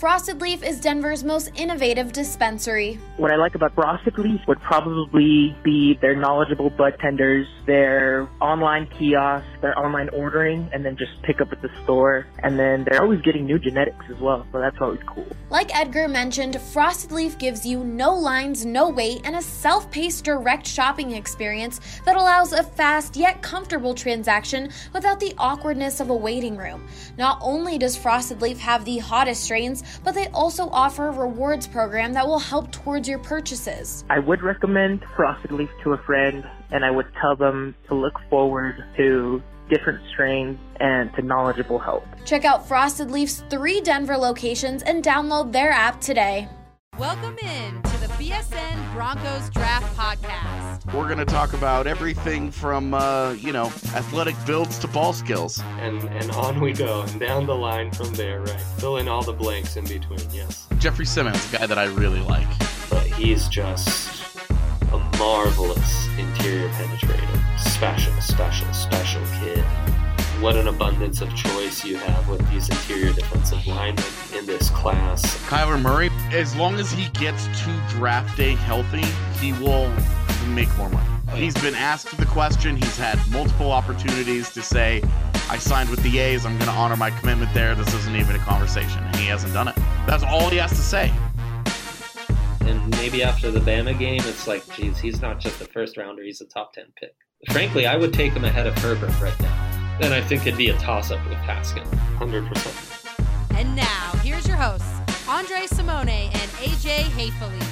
Frosted Leaf is Denver's most innovative dispensary. What I like about Frosted Leaf would probably be their knowledgeable bud tenders, their online kiosks, their online ordering, and then just pick up at the store. And then they're always getting new genetics as well, so that's always cool. Like Edgar mentioned, Frosted Leaf gives you no lines, no wait, and a self-paced direct shopping experience that allows a fast yet comfortable transaction without the awkwardness of a waiting room. Not only does Frosted Leaf have the hottest strains, but they also offer a rewards program that will help towards your purchases. I would recommend Frosted Leaf to a friend, and I would tell them to look forward to different strains and to knowledgeable help. Check out Frosted Leaf's 3 Denver locations and download their app today. Welcome in to the BSN Broncos Draft Podcast. We're going to talk about everything from, athletic builds to ball skills. And on we go, and down the line from there, right? Fill in all the blanks in between, yes. Jeffrey Simmons, a guy that I really like. But he's just a marvelous interior penetrator. Special kid. What an abundance of choice you have with these interior defensive linemen in this class. Kyler Murray, as long as he gets to draft day healthy, he will make more money. He's been asked the question. He's had multiple opportunities to say, I signed with the A's. I'm going to honor my commitment there. This isn't even a conversation. And he hasn't done it. That's all he has to say. And maybe after the Bama game, it's like, geez, he's not just a first rounder. He's a top 10 pick. Frankly, I would take him ahead of Herbert right now. And I think it'd be a toss-up with Pascal. 100%. And now, here's your hosts, Andre Simone and AJ Hayfley.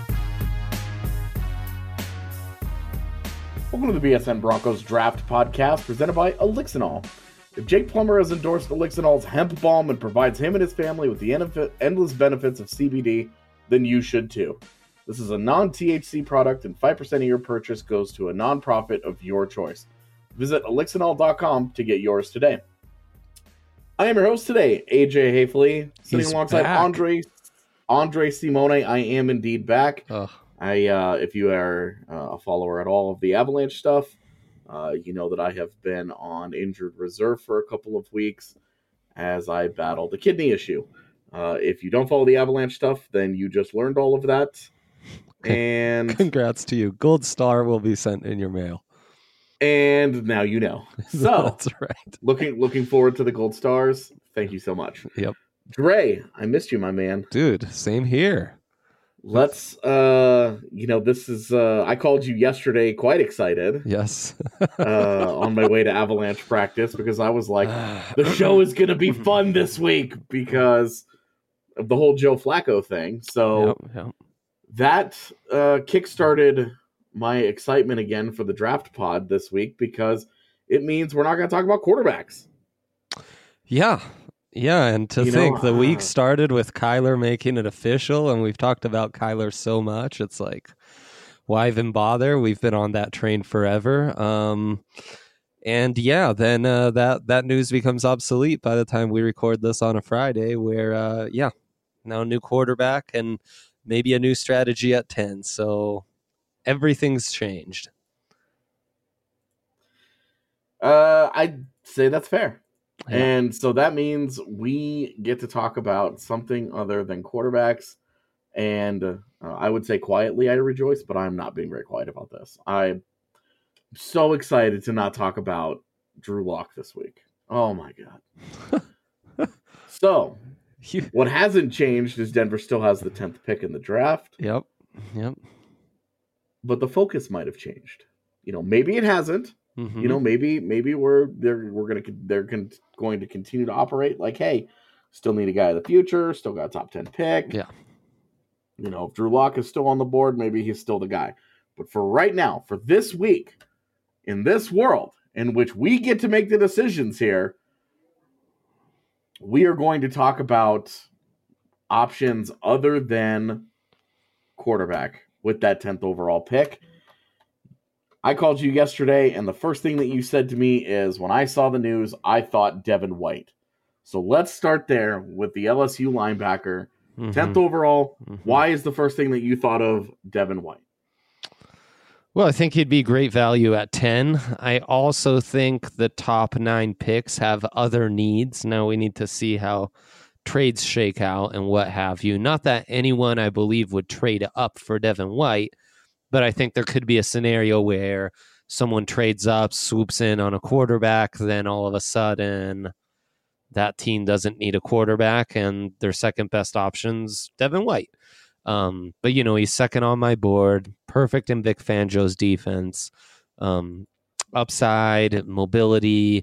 Welcome to the BSN Broncos Draft Podcast presented by Elixinol. If Jake Plummer has endorsed Elixinol's hemp balm and provides him and his family with the endless benefits of CBD, then you should too. This is a non-THC product, and 5% of your purchase goes to a nonprofit of your choice. Visit Elixinol.com to get yours today. I am your host today, AJ Hayfley, sitting alongside back. Andre Simone. I am indeed back. If you are a follower at all of the Avalanche stuff, you know that I have been on injured reserve for a couple of weeks as I battled a kidney issue. If you don't follow the Avalanche stuff, then you just learned all of that. And congrats to you. Gold star will be sent in your mail. And now you know. So that's right. Looking forward to the gold stars. Thank you so much. Yep. Dre, I missed you, my man. Dude, same here. Let's this is I called you yesterday quite excited. Yes. On my way to Avalanche practice because I was like, the show is gonna be fun this week because of the whole Joe Flacco thing. So yep. That kickstarted my excitement again for the draft pod this week because it means we're not going to talk about quarterbacks. Yeah, and to think the week started with Kyler making it official, and we've talked about Kyler so much, it's like, why even bother? We've been on that train forever. And yeah, then that news becomes obsolete by the time we record this on a Friday where, now a new quarterback and maybe a new strategy at 10. So everything's changed. I'd say that's fair. Yeah. And so that means we get to talk about something other than quarterbacks. And I would say quietly I rejoice, but I'm not being very quiet about this. I'm so excited to not talk about Drew Lock this week. Oh, my God. So what hasn't changed is Denver still has the 10th pick in the draft. Yep. But the focus might have changed. Maybe it hasn't. Mm-hmm. Maybe they're going to continue to operate like, hey, still need a guy of the future, still got a top 10 pick. Yeah. If Drew Lock is still on the board, maybe he's still the guy. But for right now, for this week, in this world in which we get to make the decisions here, we are going to talk about options other than quarterback with that 10th overall pick. I called you yesterday, and the first thing that you said to me is, when I saw the news, I thought Devin White. So let's start there with the LSU linebacker. 10th overall. Why is the first thing that you thought of Devin White? Well, I think he'd be great value at 10. I also think the top 9 picks have other needs. Now we need to see how trades shake out and what have you. Not that anyone, I believe, would trade up for Devin White, but I think there could be a scenario where someone trades up, swoops in on a quarterback, then all of a sudden that team doesn't need a quarterback and their second best option's Devin White. But, he's second on my board, perfect in Vic Fangio's defense, upside, mobility,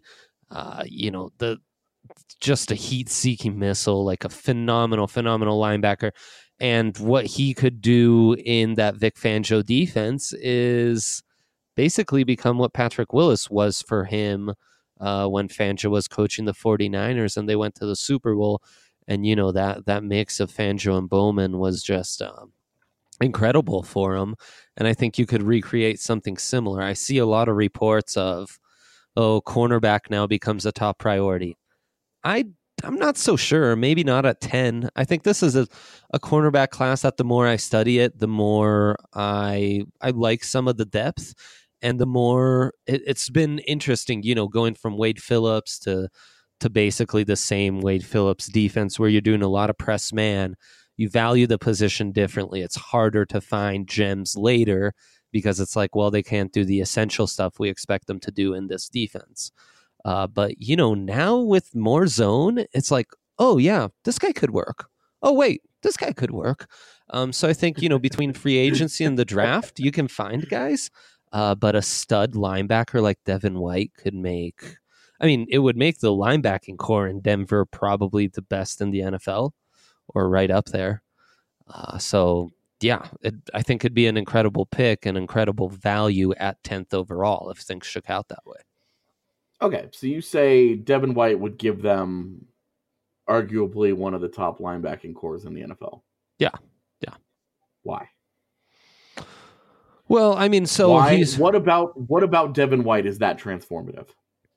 just a heat-seeking missile, like a phenomenal linebacker. And what he could do in that Vic Fangio defense is basically become what Patrick Willis was for him when Fangio was coaching the 49ers and they went to the Super Bowl. And, that mix of Fangio and Bowman was just incredible for him. And I think you could recreate something similar. I see a lot of reports of, cornerback now becomes a top priority. I'm not so sure. Maybe not at 10. I think this is a cornerback class that the more I study it, the more I like some of the depth, and the more it's been interesting, going from Wade Phillips to basically the same Wade Phillips defense where you're doing a lot of press man. You value the position differently. It's harder to find gems later because it's like, well, they can't do the essential stuff we expect them to do in this defense. But, now with more zone, it's like, oh, yeah, this guy could work. Oh, wait, this guy could work. So I think, between free agency and the draft, you can find guys. But a stud linebacker like Devin White could make... it would make the linebacking core in Denver probably the best in the NFL or right up there. I think it'd be an incredible pick, an incredible value at 10th overall if things shook out that way. Okay, so you say Devin White would give them arguably one of the top linebacking cores in the NFL. Yeah. Why? Well, what about Devin White is that transformative?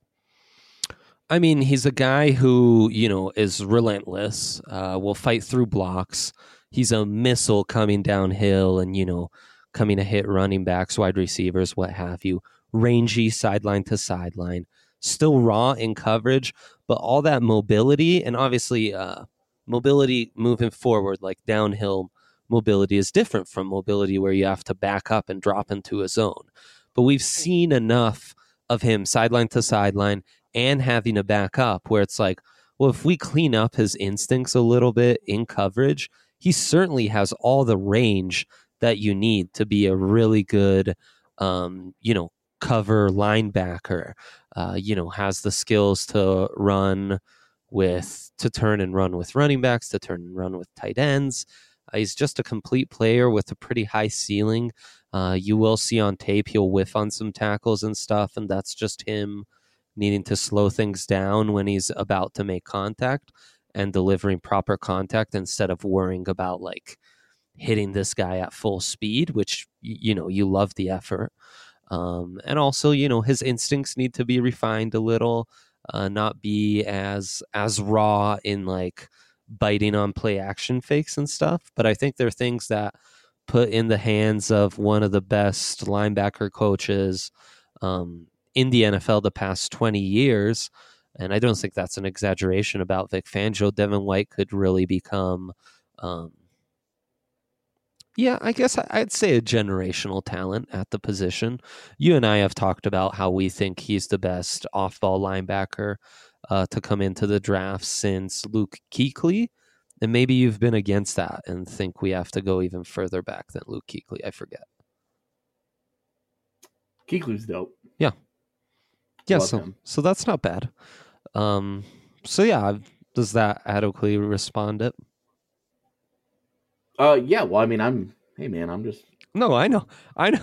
He's a guy who, is relentless, will fight through blocks. He's a missile coming downhill and, coming to hit running backs, wide receivers, what have you. Rangy sideline to sideline. Still raw in coverage, but all that mobility and obviously mobility moving forward, like downhill mobility is different from mobility where you have to back up and drop into a zone. But we've seen enough of him sideline to sideline and having to back up where it's like, well, if we clean up his instincts a little bit in coverage, he certainly has all the range that you need to be a really good, cover linebacker, has the skills to turn and run with running backs, to turn and run with tight ends. He's just a complete player with a pretty high ceiling. You will see on tape he'll whiff on some tackles and stuff, and that's just him needing to slow things down when he's about to make contact and delivering proper contact instead of worrying about like hitting this guy at full speed, which, you love the effort. And also, his instincts need to be refined a little, not be as raw in like biting on play action fakes and stuff. But I think there are things that put in the hands of one of the best linebacker coaches in the NFL the past 20 years. And I don't think that's an exaggeration about Vic Fangio. Devin White could really become, I guess I'd say a generational talent at the position. You and I have talked about how we think he's the best off-ball linebacker to come into the draft since Luke Kuechly. And maybe you've been against that and think we have to go even further back than Luke Kuechly. I forget. Kuechly's dope. Yeah. Yeah, so that's not bad. Does that adequately respond it? Yeah, well, I'm just... No, I know.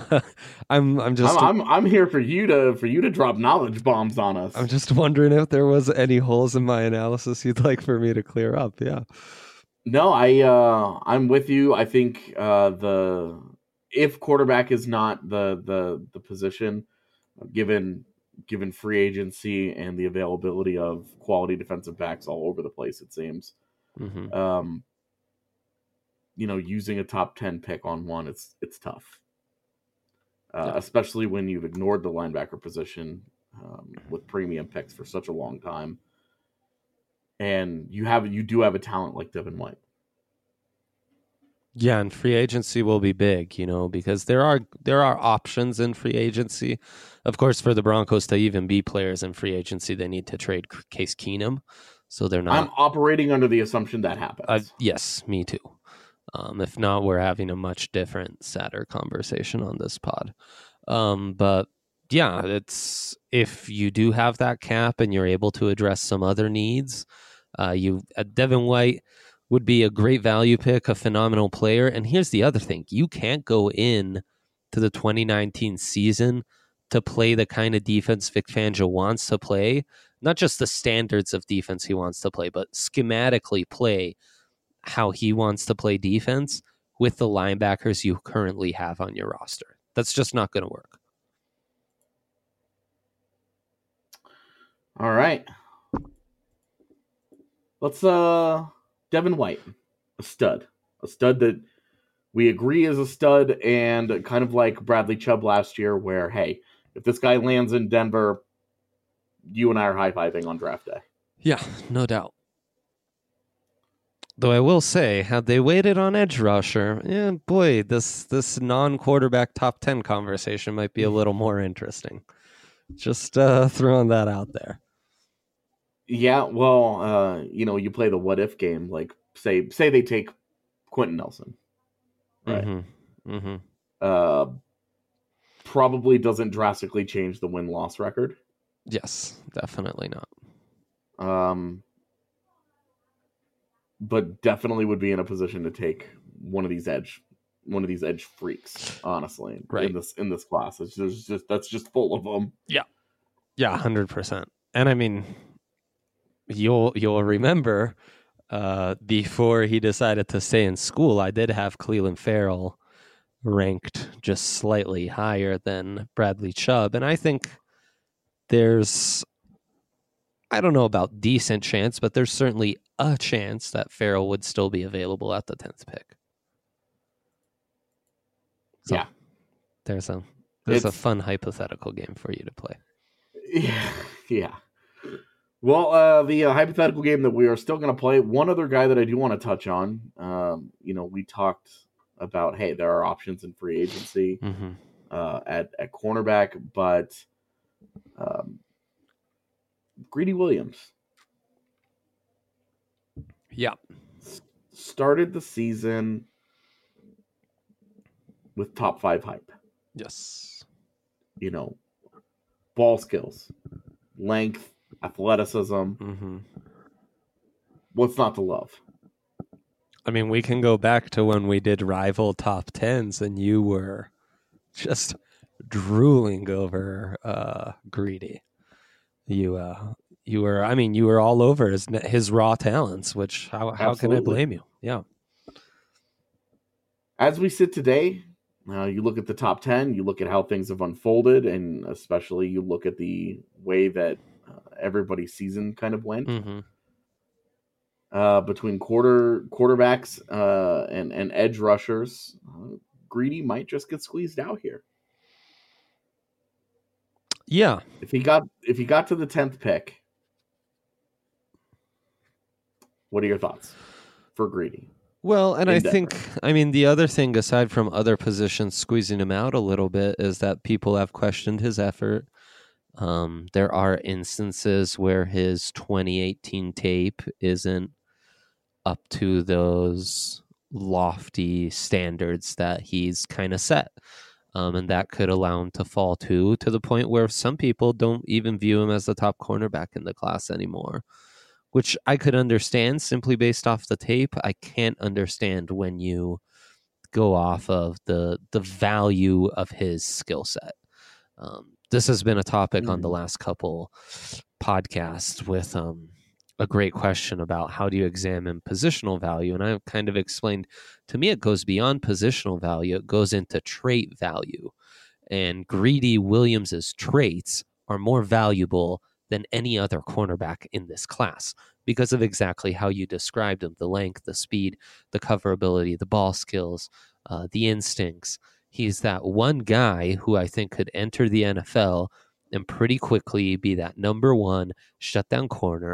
I'm here for you to drop knowledge bombs on us. I'm just wondering if there was any holes in my analysis you'd like for me to clear up. Yeah. No, I'm with you. I think if quarterback is not the position, given free agency and the availability of quality defensive backs all over the place, it seems. Mm-hmm. Using a top 10 pick on one, it's tough. Especially when you've ignored the linebacker position with premium picks for such a long time. And you do have a talent like Devin White. Yeah, and free agency will be big, because there are options in free agency. Of course, for the Broncos to even be players in free agency, they need to trade Case Keenum. So they're not. I'm operating under the assumption that happens. Yes, me too. If not, we're having a much different, sadder conversation on this pod. But yeah, it's if you do have that cap and you're able to address some other needs, Devin White would be a great value pick, a phenomenal player. And here's the other thing. You can't go in to the 2019 season to play the kind of defense Vic Fangio wants to play, not just the standards of defense he wants to play, but schematically play how he wants to play defense with the linebackers you currently have on your roster. That's just not going to work. All right. Let's Devin White, a stud that we agree is a stud, and kind of like Bradley Chubb last year, where, hey, if this guy lands in Denver, you and I are high-fiving on draft day. Yeah, no doubt. Though I will say, had they waited on edge rusher, boy, this non-quarterback top 10 conversation might be a little more interesting. Just throwing that out there. Yeah, well, you play the what if game. Like, say they take Quentin Nelson, right? Mm-hmm. Mm-hmm. Probably doesn't drastically change the win-loss record. Yes, definitely not. But definitely would be in a position to take one of these edge freaks. Honestly, right. in this class, that's just full of them. Yeah, 100%. And I mean, you'll remember before he decided to stay in school, I did have Clelin Ferrell ranked just slightly higher than Bradley Chubb, and I think there's, I don't know about decent chance, but there's certainly a chance that Ferrell would still be available at the 10th pick. So yeah, there's a fun hypothetical game for you to play. Yeah. Well, the hypothetical game that we are still going to play, one other guy that I do want to touch on, we talked about, hey, there are options in free agency at cornerback, but Greedy Williams. Yeah. Started the season with top 5 hype. Yes. Ball skills, length, athleticism. Mm-hmm. What's not to love? I mean, we can go back to when we did rival top 10s and you were just drooling over Greedy. You were all over his raw talents, which how can I blame you? Yeah. As we sit today, you look at the top 10, you look at how things have unfolded, and especially you look at the way that everybody's season kind of went. Mm-hmm. Between quarterbacks and edge rushers, Greedy might just get squeezed out here. Yeah. If he got to the 10th pick, what are your thoughts for Greedy? Well, and I think, the other thing, aside from other positions squeezing him out a little bit, is that people have questioned his effort. There are instances where his 2018 tape isn't up to those lofty standards that he's kind of set. And that could allow him to fall to the point where some people don't even view him as the top cornerback in the class anymore, which I could understand simply based off the tape. I can't understand when you go off of the value of his skill set. This has been a topic on the last couple podcasts with a great question about how do you examine positional value. And I've kind of explained, to me, it goes beyond positional value. It goes into trait value. And Greedy Williams's traits are more valuable than any other cornerback in this class because of exactly how you described him: the length, the speed, the coverability, the ball skills, the instincts. He's that one guy who I think could enter the NFL and pretty quickly be that number one shutdown corner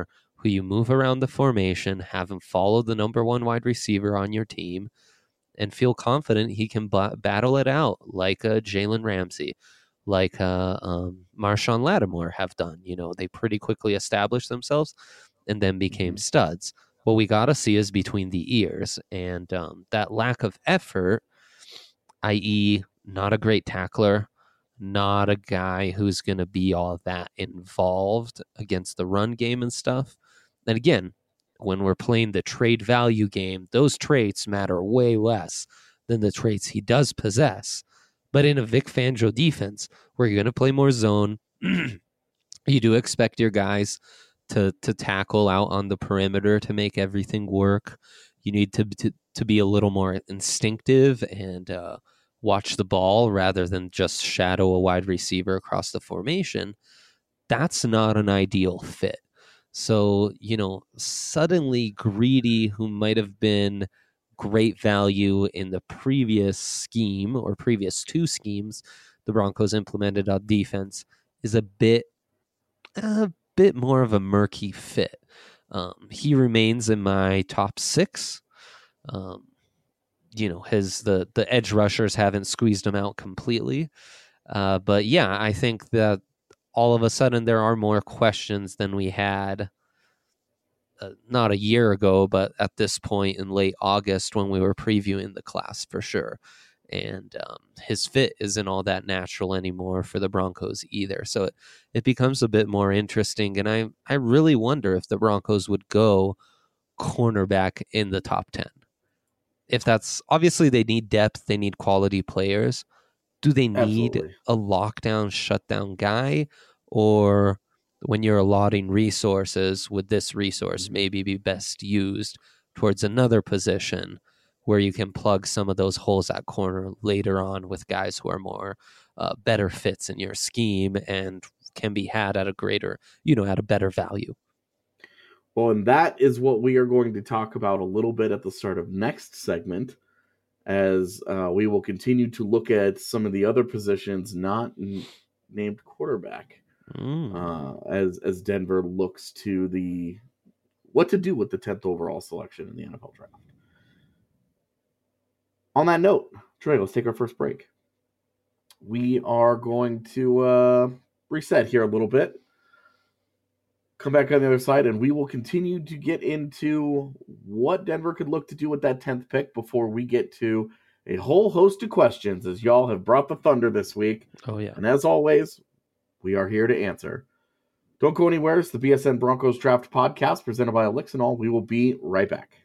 who you move around the formation, have him follow the number one wide receiver on your team, and feel confident he can battle it out like a Jalen Ramsey, like Marshawn Lattimore have done. They pretty quickly established themselves and then became studs. What we got to see is between the ears, and that lack of effort, i.e. not a great tackler, not a guy who's going to be all that involved against the run game and stuff. And again, when we're playing the trade value game, those traits matter way less than the traits he does possess. But in a Vic Fangio defense, where you're going to play more zone, you do expect your guys to tackle out on the perimeter to make everything work. You need to be a little more instinctive and watch the ball rather than just shadow a wide receiver across the formation. That's not an ideal fit. So, suddenly Greedy, who might have been great value in the previous scheme or previous two schemes the Broncos implemented on defense, is a bit more of a murky fit. He remains in my top 6. The edge rushers haven't squeezed him out completely. But yeah, I think that all of a sudden there are more questions than we had not a year ago, but at this point in late August when we were previewing the class for sure. And his fit isn't all that natural anymore for the Broncos either. So it becomes a bit more interesting. And I really wonder if the Broncos would go cornerback in the top 10. If that's obviously they need depth, they need quality players. Do they need a lockdown, shutdown guy? Or when you're allotting resources, would this resource maybe be best used towards another position where you can plug some of those holes at corner later on with guys who are more better fits in your scheme and can be had at a greater, at a better value? Well, and that is what we are going to talk about a little bit at the start of next segment, as we will continue to look at some of the other positions not named quarterback, as Denver looks to what to do with the 10th overall selection in the NFL draft. On that note, Trey, let's take our first break. We are going to reset here a little bit. Come back on the other side, and we will continue to get into what Denver could look to do with that 10th pick before we get to a whole host of questions, as y'all have brought the thunder this week. Oh, yeah. And as always, we are here to answer. Don't go anywhere. It's the BSN Broncos Draft Podcast presented by Elixinol. We will be right back.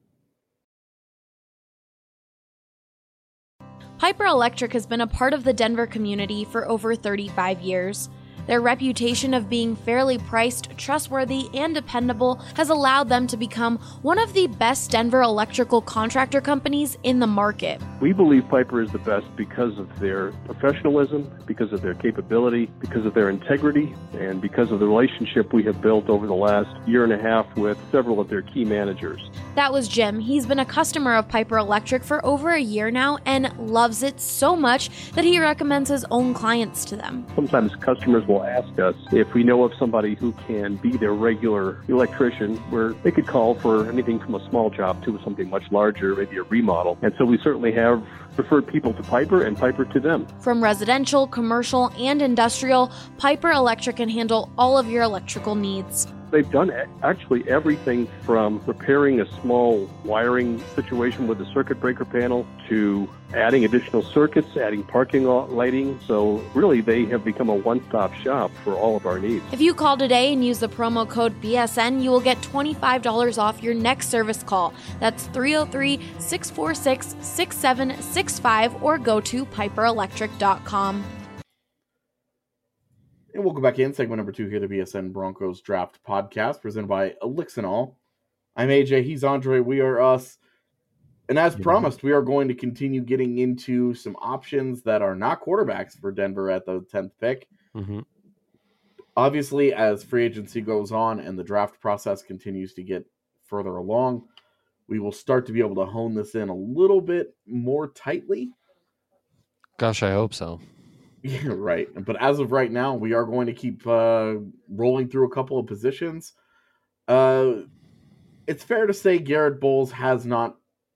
Piper Electric has been a part of the Denver community for over 35 years. Their reputation of being fairly priced, trustworthy, and dependable has allowed them to become one of the best Denver electrical contractor companies in the market. We believe Piper is the best because of their professionalism, because of their capability, because of their integrity, and because of the relationship we have built over the last year and a half with several of their key managers. That was Jim. He's been a customer of Piper Electric for over a year now and loves it so much that he recommends his own clients to them. Sometimes customers will ask us if we know of somebody who can be their regular electrician, where they could call for anything from a small job to something much larger, maybe a remodel. And so we certainly have referred people to Piper and Piper to them. From residential, commercial, and industrial, Piper Electric can handle all of your electrical needs. They've done actually everything from repairing a small wiring situation with a circuit breaker panel to adding additional circuits, adding parking lot lighting. So really, they have become a one-stop shop for all of our needs. If you call today and use the promo code BSN, you will get $25 off your next service call. That's 303-646-6765 or go to piperelectric.com. And welcome back in segment number 2 here, the BSN Broncos Draft Podcast, presented by Elixinol. I'm AJ, he's Andre, we are us. And as promised, we are going to continue getting into some options that are not quarterbacks for Denver at the 10th pick. Mm-hmm. Obviously, as free agency goes on and the draft process continues to get further along, we will start to be able to hone this in a little bit more tightly. Gosh, I hope so. Yeah, right. But as of right now, we are going to keep rolling through a couple of positions. It's fair to say Garrett Bowles has not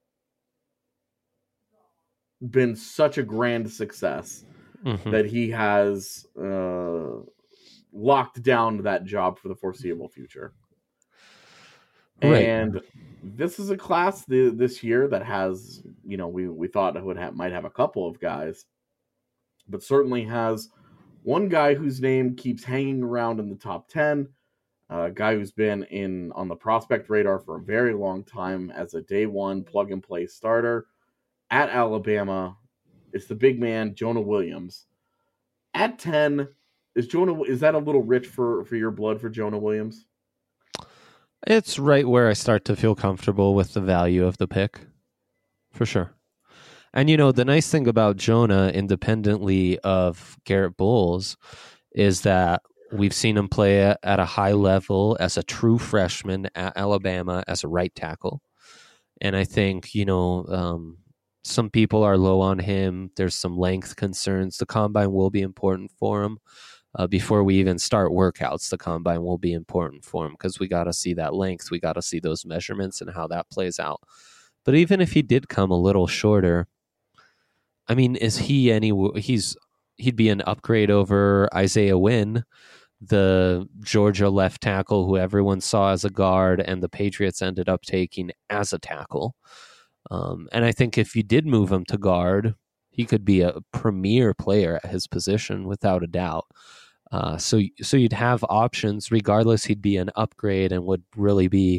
been such a grand success that he has locked down that job for the foreseeable future. Right. And this is a class this year that has, we thought it might have a couple of guys, but certainly has one guy whose name keeps hanging around in the top 10, a guy who's been on the prospect radar for a very long time as a day one plug-and-play starter at Alabama. It's the big man, Jonah Williams. At 10, is that a little rich for your blood for Jonah Williams? It's right where I start to feel comfortable with the value of the pick, for sure. And, the nice thing about Jonah, independently of Garrett Bowles, is that we've seen him play at a high level as a true freshman at Alabama as a right tackle. And I think, some people are low on him. There's some length concerns. The combine will be important for him. Before we even start workouts, the combine will be important for him because we got to see that length. We got to see those measurements and how that plays out. But even if he did come a little shorter, I mean, he'd be an upgrade over Isaiah Wynn, the Georgia left tackle who everyone saw as a guard and the Patriots ended up taking as a tackle. And I think if you did move him to guard, he could be a premier player at his position without a doubt. So you'd have options. Regardless, he'd be an upgrade and would really be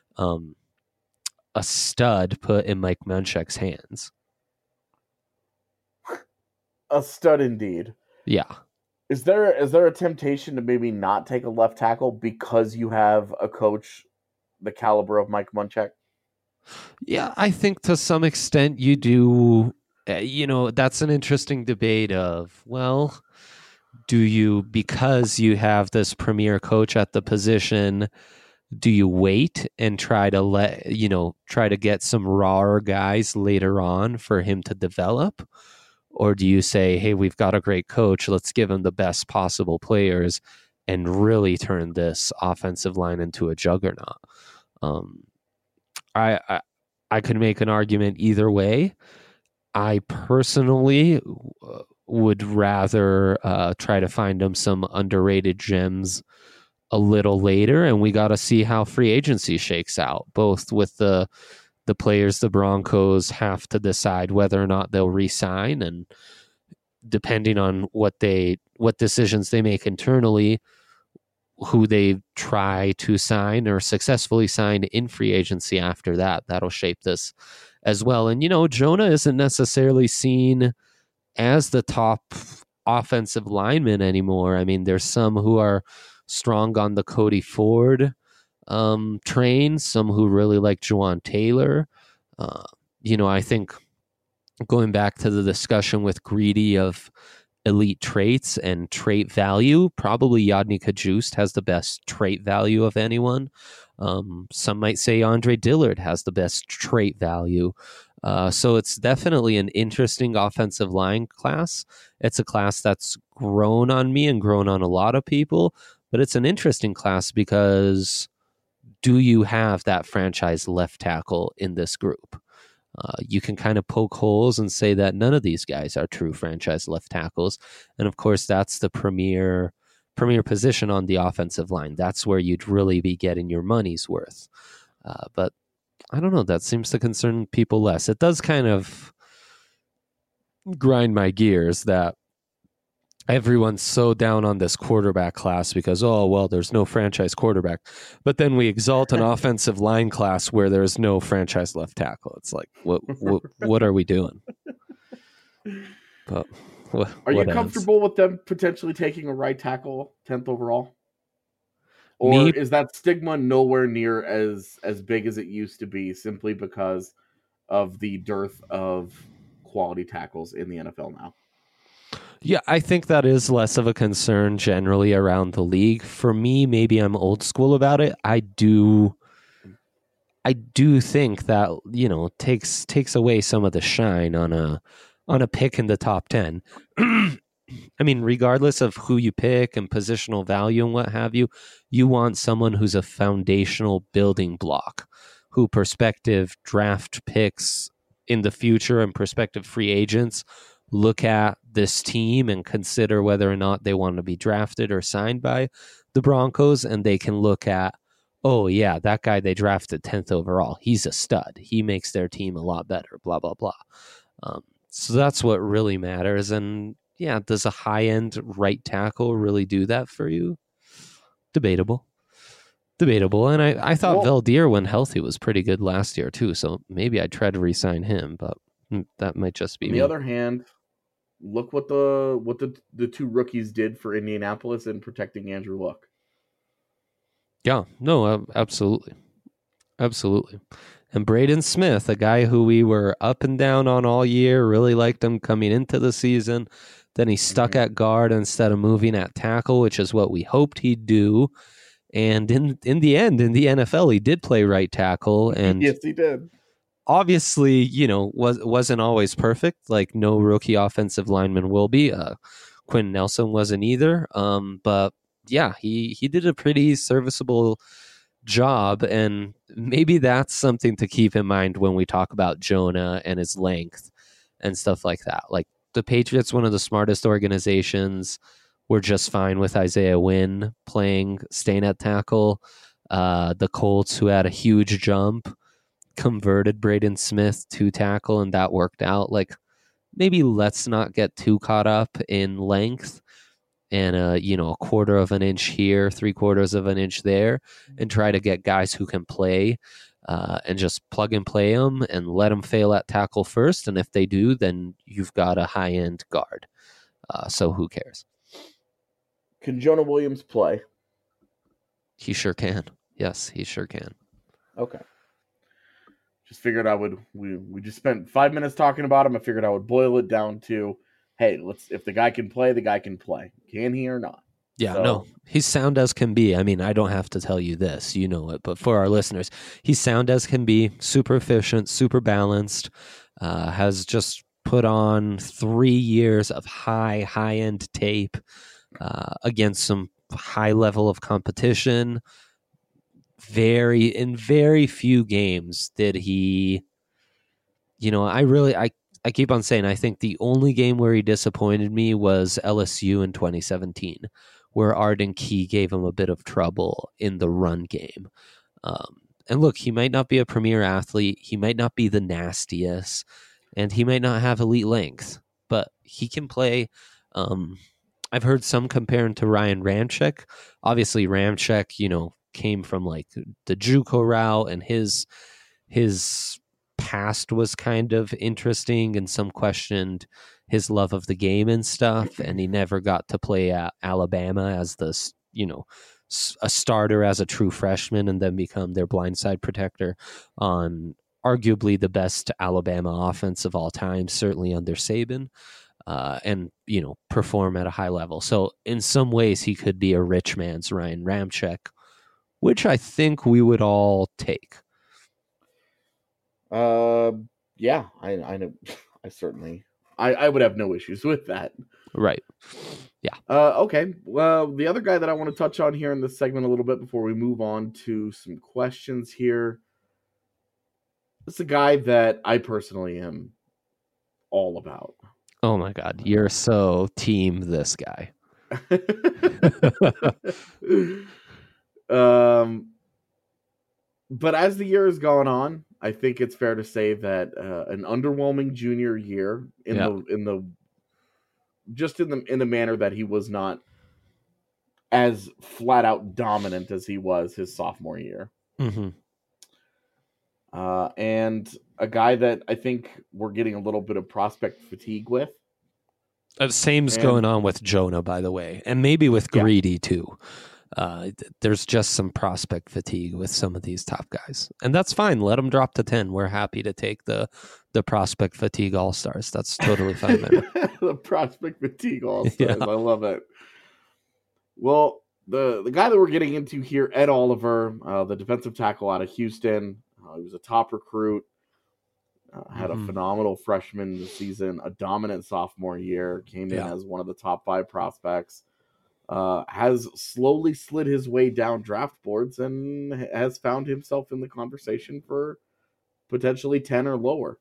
a stud put in Mike Munchak's hands. A stud indeed. Yeah. Is there a temptation to maybe not take a left tackle because you have a coach the caliber of Mike Munchak? Yeah, I think to some extent you do. That's an interesting debate of, well, do you, because you have this premier coach at the position, do you wait and try to get some rawer guys later on for him to develop? Or do you say, hey, we've got a great coach, let's give him the best possible players and really turn this offensive line into a juggernaut? I could make an argument either way. I personally would rather try to find him some underrated gems a little later, and we got to see how free agency shakes out, both with the players the Broncos have to decide whether or not they'll re-sign, and depending on what decisions they make internally, who they try to sign or successfully sign in free agency after that. That'll shape this as well. And, Jonah isn't necessarily seen as the top offensive lineman anymore. I mean, there's some who are strong on the Cody Ford train, some who really like Juwan Taylor. I think going back to the discussion with Greedy of elite traits and trait value, probably Yodny Kajust has the best trait value of anyone. Some might say Andre Dillard has the best trait value. So it's definitely an interesting offensive line class. It's a class that's grown on me and grown on a lot of people, but it's an interesting class because do you have that franchise left tackle in this group? You can kind of poke holes and say that none of these guys are true franchise left tackles. And of course, that's the premier position on the offensive line. That's where you'd really be getting your money's worth. But I don't know, that seems to concern people less. It does kind of grind my gears that everyone's so down on this quarterback class because, there's no franchise quarterback. But then we exalt an offensive line class where there's no franchise left tackle. It's like, what are we doing? But are you comfortable with them potentially taking a right tackle 10th overall? Or is that stigma nowhere near as big as it used to be simply because of the dearth of quality tackles in the NFL now? Yeah, I think that is less of a concern generally around the league. For me, maybe I'm old school about it. I do think that, takes away some of the shine on a pick in the top 10. I mean, regardless of who you pick and positional value and what have you, you want someone who's a foundational building block, who prospective draft picks in the future and prospective free agents look at this team and consider whether or not they want to be drafted or signed by the Broncos, and they can look at, oh yeah, that guy they drafted 10th overall, he's a stud. He makes their team a lot better, blah, blah, blah. So that's what really matters. And yeah, does a high-end right tackle really do that for you? Debatable. And I thought Valdir, when healthy, was pretty good last year too, so maybe I'd try to re-sign him, but that might just be On the other hand, look what the two rookies did for Indianapolis in protecting Andrew Luck. Yeah, no, absolutely. And Braden Smith, a guy who we were up and down on all year, really liked him coming into the season. Then he stuck at guard instead of moving at tackle, which is what we hoped he'd do. And in the end, in the NFL, he did play right tackle. And yes, he did. Obviously, wasn't always perfect. Like no rookie offensive lineman will be. Quinn Nelson wasn't either. But yeah, he did a pretty serviceable job, and maybe that's something to keep in mind when we talk about Jonah and his length and stuff like that. Like the Patriots, one of the smartest organizations, were just fine with Isaiah Wynn staying at tackle. The Colts, who had a huge jump, converted Braden Smith to tackle, and that worked out. Like maybe let's not get too caught up in length and a quarter of an inch here, 3/4 of an inch there, and try to get guys who can play and just plug and play them and let them fail at tackle first. And if they do, then you've got a high-end guard. So who cares? Can Jonah Williams play? He sure can. Yes, he sure can. Okay. Just figured we just spent 5 minutes talking about him. I figured I would boil it down to, hey, if the guy can play, the guy can play. Can he or not? Yeah, no, he's sound as can be. I mean, I don't have to tell you this, you know it, but for our listeners, he's sound as can be, super efficient, super balanced, has just put on 3 years of high-end tape against some high level of competition. In very few games did he, I keep on saying, I think the only game where he disappointed me was LSU in 2017, where Arden Key gave him a bit of trouble in the run game. And look, he might not be a premier athlete. He might not be the nastiest, and he might not have elite length, but he can play. I've heard some compare him to Ryan Ramczyk. Obviously, Ramczyk, came from like the JUCO route, and his past was kind of interesting, and some questioned his love of the game and stuff, and he never got to play at Alabama as a starter as a true freshman and then become their blindside protector on arguably the best Alabama offense of all time, certainly under Saban, and perform at a high level. So in some ways he could be a rich man's Ryan Ramczyk, which I think we would all take. Yeah, I know. I would have no issues with that. Right. Yeah. Okay. Well, the other guy that I want to touch on here in this segment a little bit before we move on to some questions here. It's a guy that I personally am all about. Oh my God. You're so team this guy. But as the year has gone on, I think it's fair to say that an underwhelming junior year in the manner that he was not as flat out dominant as he was his sophomore year. Mm-hmm. And a guy that I think we're getting a little bit of prospect fatigue with. Same's going on with Jonah, by the way, and maybe with Greedy too. There's just some prospect fatigue with some of these top guys, and that's fine. Let them drop to 10. We're happy to take the prospect fatigue all-stars. That's totally fine. The prospect fatigue all-stars. Yeah. I love it. Well, the guy that we're getting into here, Ed Oliver, the defensive tackle out of Houston. He was a top recruit. Had a phenomenal freshman season, a dominant sophomore year, came in as one of the top 5 prospects, has slowly slid his way down draft boards and has found himself in the conversation for potentially 10 or lower.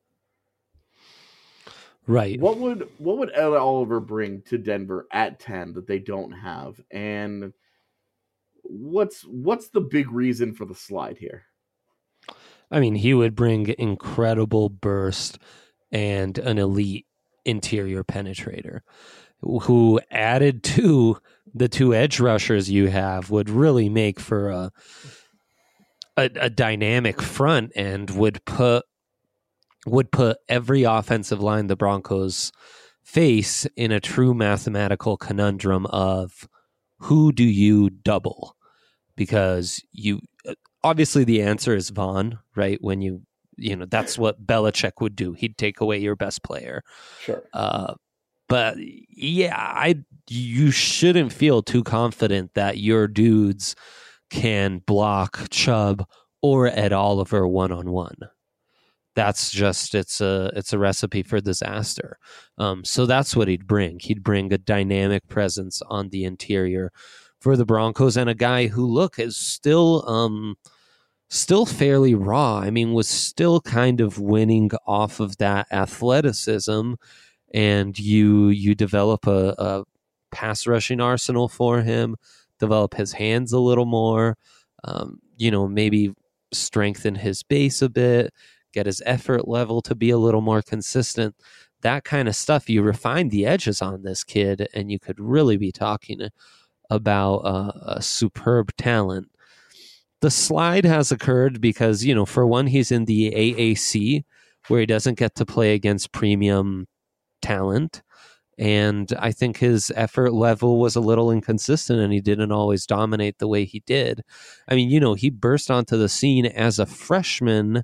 Right. What would Ed Oliver bring to Denver at 10 that they don't have? And what's the big reason for the slide here? I mean, he would bring incredible burst and an elite interior penetrator who, added to the 2 edge rushers you have, would really make for a dynamic front and would put every offensive line the Broncos face in a true mathematical conundrum of who do you double? Because obviously the answer is Vaughn, right? When you that's what Belichick would do. He'd take away your best player. Sure. But yeah, you shouldn't feel too confident that your dudes can block Chubb or Ed Oliver one-on-one. That's just it's a recipe for disaster. So that's what he'd bring. He'd bring a dynamic presence on the interior for the Broncos, and a guy who is still fairly raw. I mean, was still kind of winning off of that athleticism, and you develop a pass rushing arsenal for him, develop his hands a little more, maybe strengthen his base a bit, get his effort level to be a little more consistent. That kind of stuff, you refine the edges on this kid, and you could really be talking about a superb talent. The slide has occurred because, for one, he's in the AAC, where he doesn't get to play against premium talent. And I think his effort level was a little inconsistent, and he didn't always dominate the way he did. I mean, he burst onto the scene as a freshman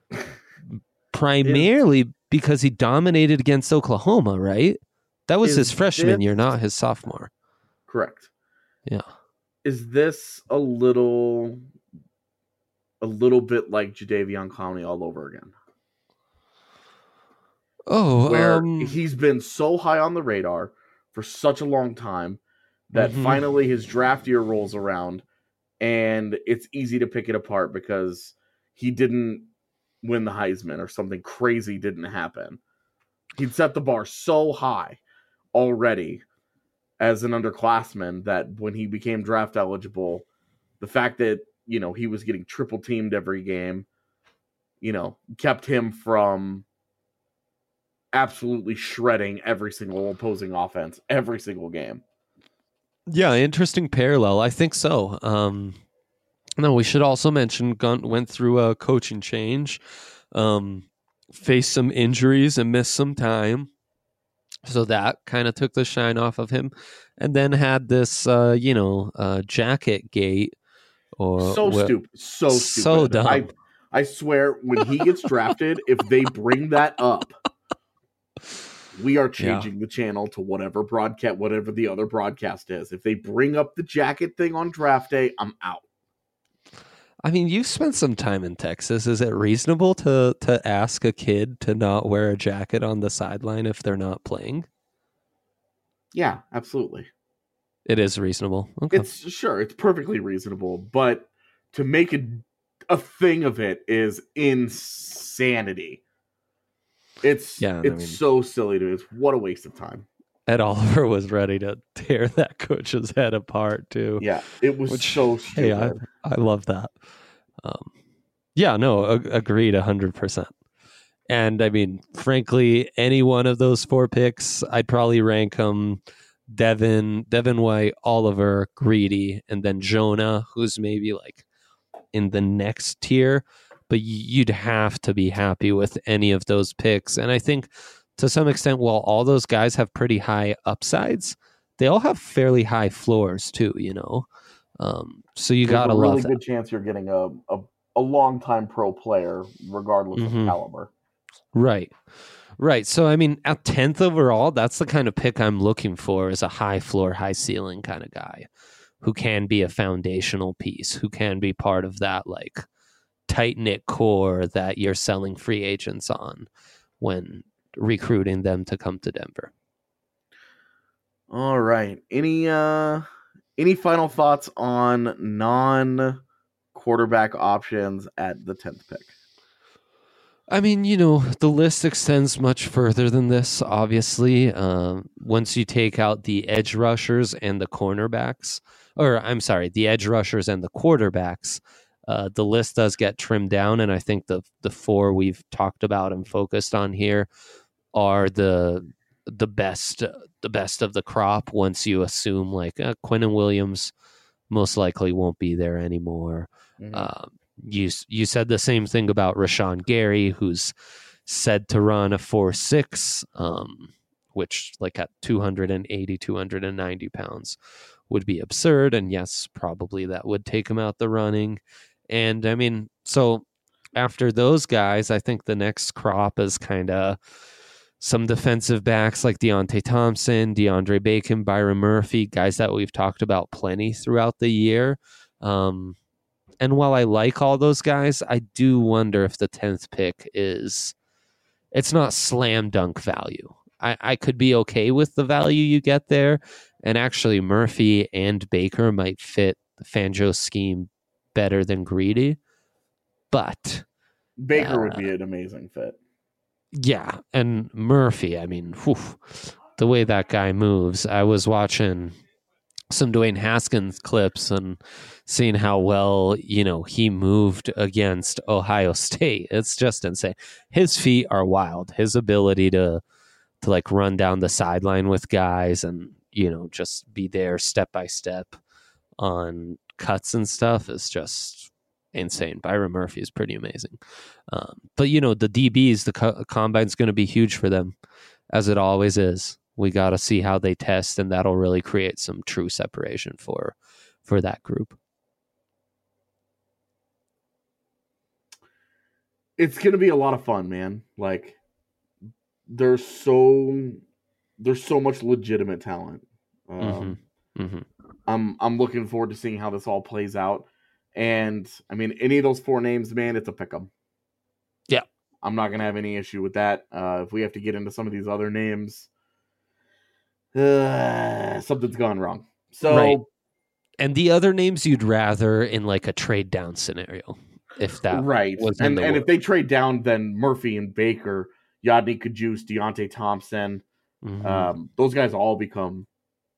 primarily because he dominated against Oklahoma, right? That was his freshman year, not his sophomore. Correct. Yeah. Is this a little bit like Jadeveon Clowney all over again? Oh, where he's been so high on the radar for such a long time that finally his draft year rolls around and it's easy to pick it apart because he didn't win the Heisman or something crazy didn't happen. He'd set the bar so high already as an underclassman that when he became draft eligible, the fact that, he was getting triple teamed every game, kept him from absolutely shredding every single opposing offense, every single game. Yeah, interesting parallel. I think so. No, we should also mention Gunt went through a coaching change, faced some injuries and missed some time. So that kind of took the shine off of him. And then had this, jacket gate. Stupid. So dumb. I swear, when he gets drafted, if they bring that up, we are changing the channel to whatever the other broadcast is. If they bring up the jacket thing on draft day, I'm out. I mean, you've spent some time in Texas. Is it reasonable to ask a kid to not wear a jacket on the sideline if they're not playing? Yeah, absolutely. It is reasonable. Okay. It's perfectly reasonable, but to make a thing of it is insanity. It's so silly to me. What a waste of time. Ed Oliver was ready to tear that coach's head apart too. Yeah, it was so stupid. Hey, I love that. Agreed 100%. And I mean, frankly, any one of those 4 picks, I'd probably rank them Devin White, Oliver, Greedy, and then Jonah, who's maybe like in the next tier. But you'd have to be happy with any of those picks. And I think to some extent, while all those guys have pretty high upsides, they all have fairly high floors too, So you got to love There's a really good chance you're getting a long-time pro player, regardless of caliber. Right. So, I mean, at 10th overall, that's the kind of pick I'm looking for, is a high floor, high ceiling kind of guy who can be a foundational piece, who can be part of that, tight-knit core that you're selling free agents on when recruiting them to come to Denver. All right. Any final thoughts on non-quarterback options at the 10th pick? I mean, the list extends much further than this, obviously. Once you take out the edge rushers and the cornerbacks, the edge rushers and the quarterbacks, the list does get trimmed down. And I think the four we've talked about and focused on here are the best of the crop once you assume like Quinnen Williams most likely won't be there anymore. Mm-hmm. You said the same thing about Rashawn Gary, who's said to run a 4.6, which like at 280, 290 pounds would be absurd. And yes, probably that would take him out the running. And I mean, so after those guys, I think the next crop is kind of some defensive backs like Deontay Thompson, DeAndre Bacon, Byron Murphy, guys that we've talked about plenty throughout the year. And while I like all those guys, I do wonder if the 10th pick it's not slam dunk value. I could be okay with the value you get there. And actually Murphy and Baker might fit the Fangio scheme better than Greedy. But Baker would be an amazing fit. Yeah. And Murphy, I mean, the way that guy moves, I was watching some Dwayne Haskins clips and seeing how well, he moved against Ohio State. It's just insane. His feet are wild. His ability to like run down the sideline with guys and, just be there step by step on cuts and stuff is just insane. Byron Murphy is pretty amazing. But, the DBs, the combine's going to be huge for them, as it always is. We got to see how they test, and that'll really create some true separation for that group. It's going to be a lot of fun, man. Like, there's so much legitimate talent. I'm looking forward to seeing how this all plays out. And I mean, any of those four names, man, it's a pick 'em. Yeah, I'm not going to have any issue with that. If we have to get into some of these other names, something's gone wrong. So, right. And the other names you'd rather in like a trade down scenario, if that right. was and if they trade down, then Murphy and Baker, Yodny Kajus, Deontay Thompson, those guys all become,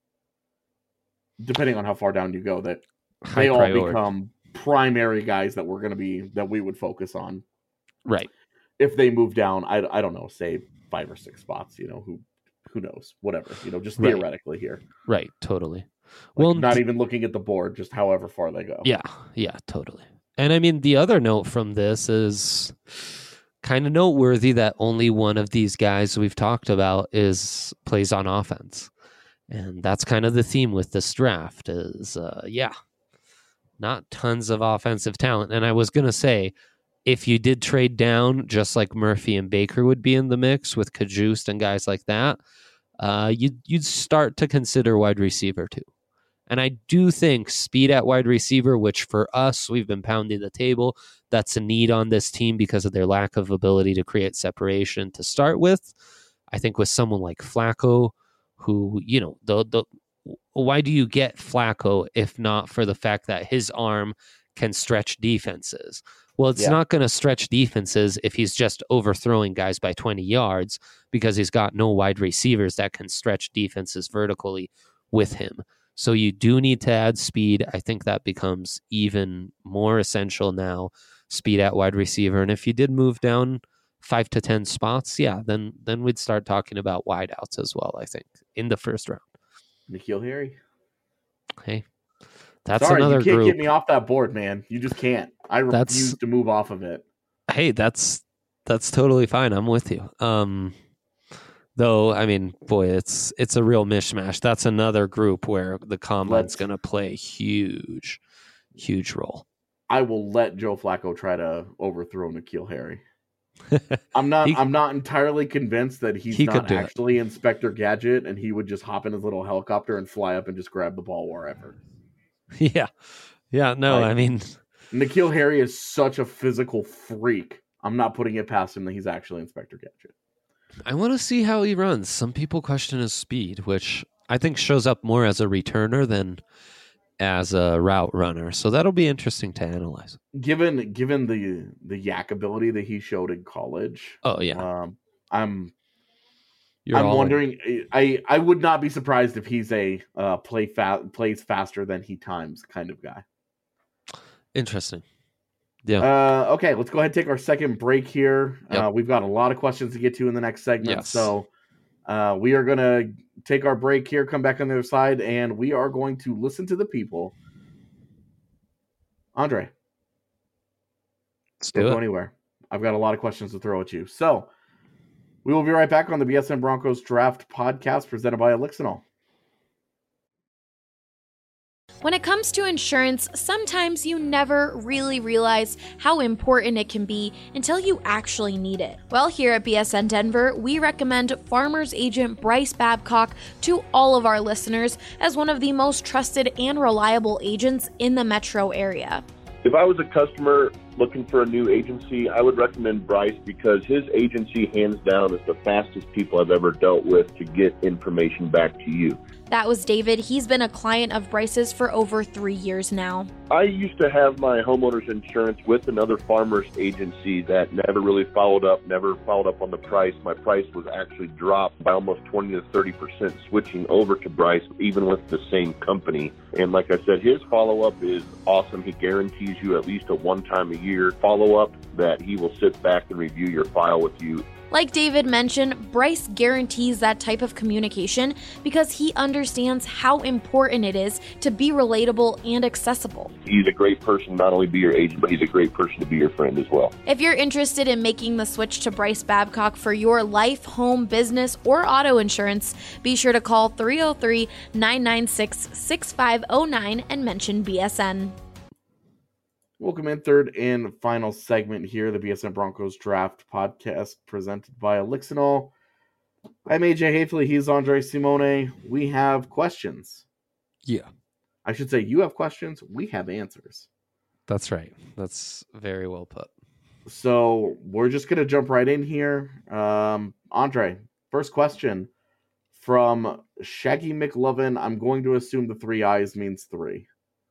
depending on how far down you go, that high they all priority. Become primary guys that we would focus on. Right. If they move down, I don't know, say 5 or 6 spots, who knows, whatever, just theoretically here. Right. Totally. Well, not even looking at the board, just however far they go. Yeah, totally. And I mean, the other note from this is kind of noteworthy that only one of these guys we've talked about plays on offense. And that's kind of the theme with this draft is, not tons of offensive talent. And I was going to say, if you did trade down, just like Murphy and Baker would be in the mix with Kajust and guys like that, you'd start to consider wide receiver too. And I do think speed at wide receiver, which for us, we've been pounding the table, that's a need on this team because of their lack of ability to create separation to start with. I think with someone like Flacco, who, why do you get Flacco if not for the fact that his arm can stretch defenses? Well, it's not going to stretch defenses if he's just overthrowing guys by 20 yards because he's got no wide receivers that can stretch defenses vertically with him. So you do need to add speed. I think that becomes even more essential now, speed at wide receiver. And if you did move down 5 to 10 spots, then we'd start talking about wideouts as well, I think, in the first round. N'Keal Harry. Hey, that's Sorry, another you can't group. Get me off that board, man. You just can't. I refuse to move off of it. Hey, that's totally fine. I'm with you. Though, I mean, boy, it's a real mishmash. That's another group where the combine's going to play a huge role. I will let Joe Flacco try to overthrow N'Keal Harry. I'm not entirely convinced that he's not actually Inspector Gadget and he would just hop in his little helicopter and fly up and just grab the ball wherever. Yeah. No, I mean, N'Keal Harry is such a physical freak. I'm not putting it past him that he's actually Inspector Gadget. I want to see how he runs. Some people question his speed, which I think shows up more as a returner than as a route runner. So that'll be interesting to analyze. Given the yak ability that he showed in college. Oh yeah. I'm wondering. I would not be surprised if he's a plays faster than he times kind of guy. Interesting. Yeah. Okay, let's go ahead and take our second break here. Yep. We've got a lot of questions to get to in the next segment. Yes. So we are going to take our break here, come back on the other side, and we are going to listen to the people. Andre. Don't go anywhere. I've got a lot of questions to throw at you. So we will be right back on the BSN Broncos Draft Podcast presented by Elixinol. When it comes to insurance, sometimes you never really realize how important it can be until you actually need it. Well, here at BSN Denver, we recommend Farmers Agent Bryce Babcock to all of our listeners as one of the most trusted and reliable agents in the metro area. If I was a customer looking for a new agency, I would recommend Bryce because his agency, hands down, is the fastest people I've ever dealt with to get information back to you. That was David. He's been a client of Bryce's for over 3 years now. I used to have my homeowner's insurance with another farmer's agency that never really followed up on the price. My price was actually dropped by almost 20 to 30% switching over to Bryce, even with the same company. And like I said, his follow-up is awesome. He guarantees you at least a one-time-a-year follow-up that he will sit back and review your file with you. Like David mentioned, Bryce guarantees that type of communication because he understands how important it is to be relatable and accessible. He's a great person, not only be your agent, but he's a great person to be your friend as well. If you're interested in making the switch to Bryce Babcock for your life, home, business, or auto insurance, be sure to call 303-996-6509 and mention BSN. Welcome in, third and final segment here, the BSN Broncos Draft Podcast presented by Elixinol. I'm AJ Hafley, he's Andre Simone. We have questions. Yeah. I should say you have questions, we have answers. That's right. That's very well put. So we're just going to jump right in here. Andre, first question from Shaggy McLovin. I'm going to assume the 3 eyes means 3.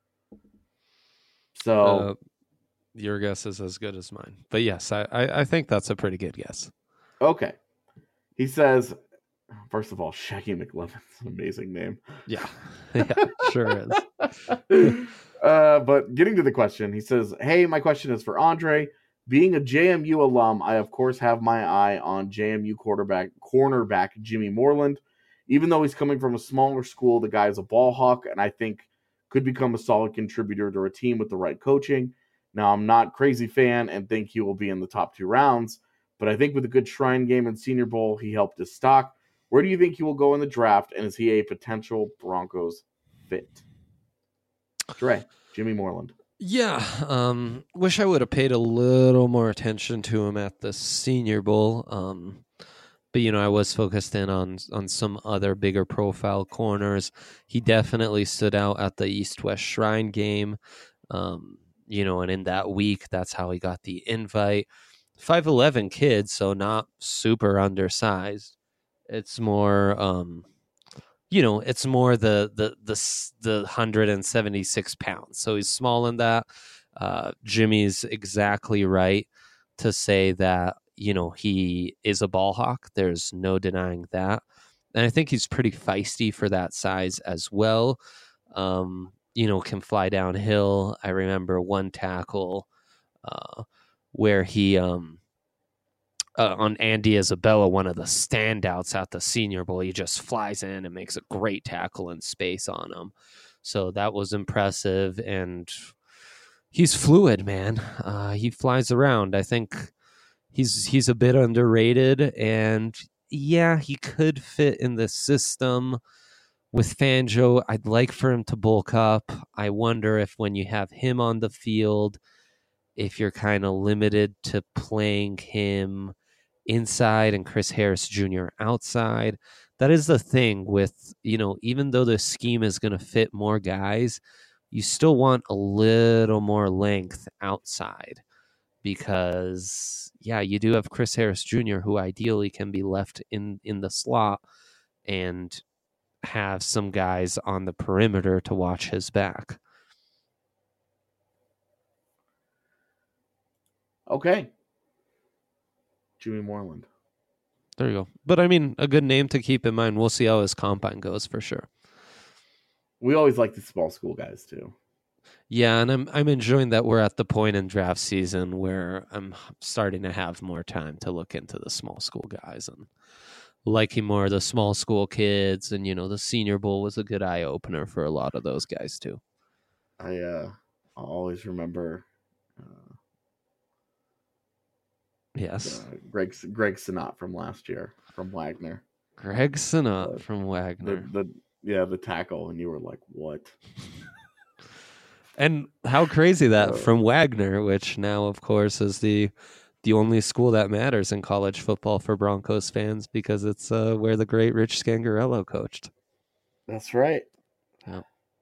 So your guess is as good as mine. But yes, I think that's a pretty good guess. Okay. He says, first of all, Shaggy McLovin's an amazing name. Yeah. Yeah, sure is. But getting to the question, he says, hey, my question is for Andre. Being a JMU alum, I of course have my eye on JMU cornerback Jimmy Moreland. Even though he's coming from a smaller school, the guy is a ball hawk, and I think could become a solid contributor to a team with the right coaching. Now, I'm not a crazy fan and think he will be in the top 2 rounds, but I think with a good Shrine game and Senior Bowl, he helped his stock. Where do you think he will go in the draft, and is he a potential Broncos fit? Dre, Jimmy Moreland. Yeah, wish I would have paid a little more attention to him at the Senior Bowl. But, I was focused in on some other bigger profile corners. He definitely stood out at the East-West Shrine game. And in that week, that's how he got the invite. 5'11" kid, so not super undersized. It's more, it's more the 176 pounds. So he's small in that. Jimmy's exactly right to say that, he is a ball hawk. There's no denying that. And I think he's pretty feisty for that size as well. Can fly downhill. I remember one tackle where he, on Andy Isabella, one of the standouts at the Senior Bowl, he just flies in and makes a great tackle in space on him. So that was impressive. And he's fluid, man. He flies around. I think he's a bit underrated, and yeah, he could fit in the system with Fangio. I'd like for him to bulk up. I wonder if when you have him on the field, if you're kind of limited to playing him inside and Chris Harris Jr. outside. That is the thing with, even though the scheme is going to fit more guys, you still want a little more length outside because, yeah, you do have Chris Harris Jr., who ideally can be left in the slot and have some guys on the perimeter to watch his back. Okay. Jimmy Moreland. There you go. But I mean, a good name to keep in mind. We'll see how his combine goes for sure. We always like the small school guys too. Yeah, and I'm enjoying that we're at the point in draft season where I'm starting to have more time to look into the small school guys and liking more of the small school kids. And, you know, the Senior Bowl was a good eye opener for a lot of those guys too. I'll always remember. Yes. Greg Sinnott from last year from Wagner. Greg Sinnott from Wagner. The tackle, and you were like, what? And how crazy that from Wagner, which now, of course, is the only school that matters in college football for Broncos fans because it's where the great Rich Scangarello coached. That's right. Yeah.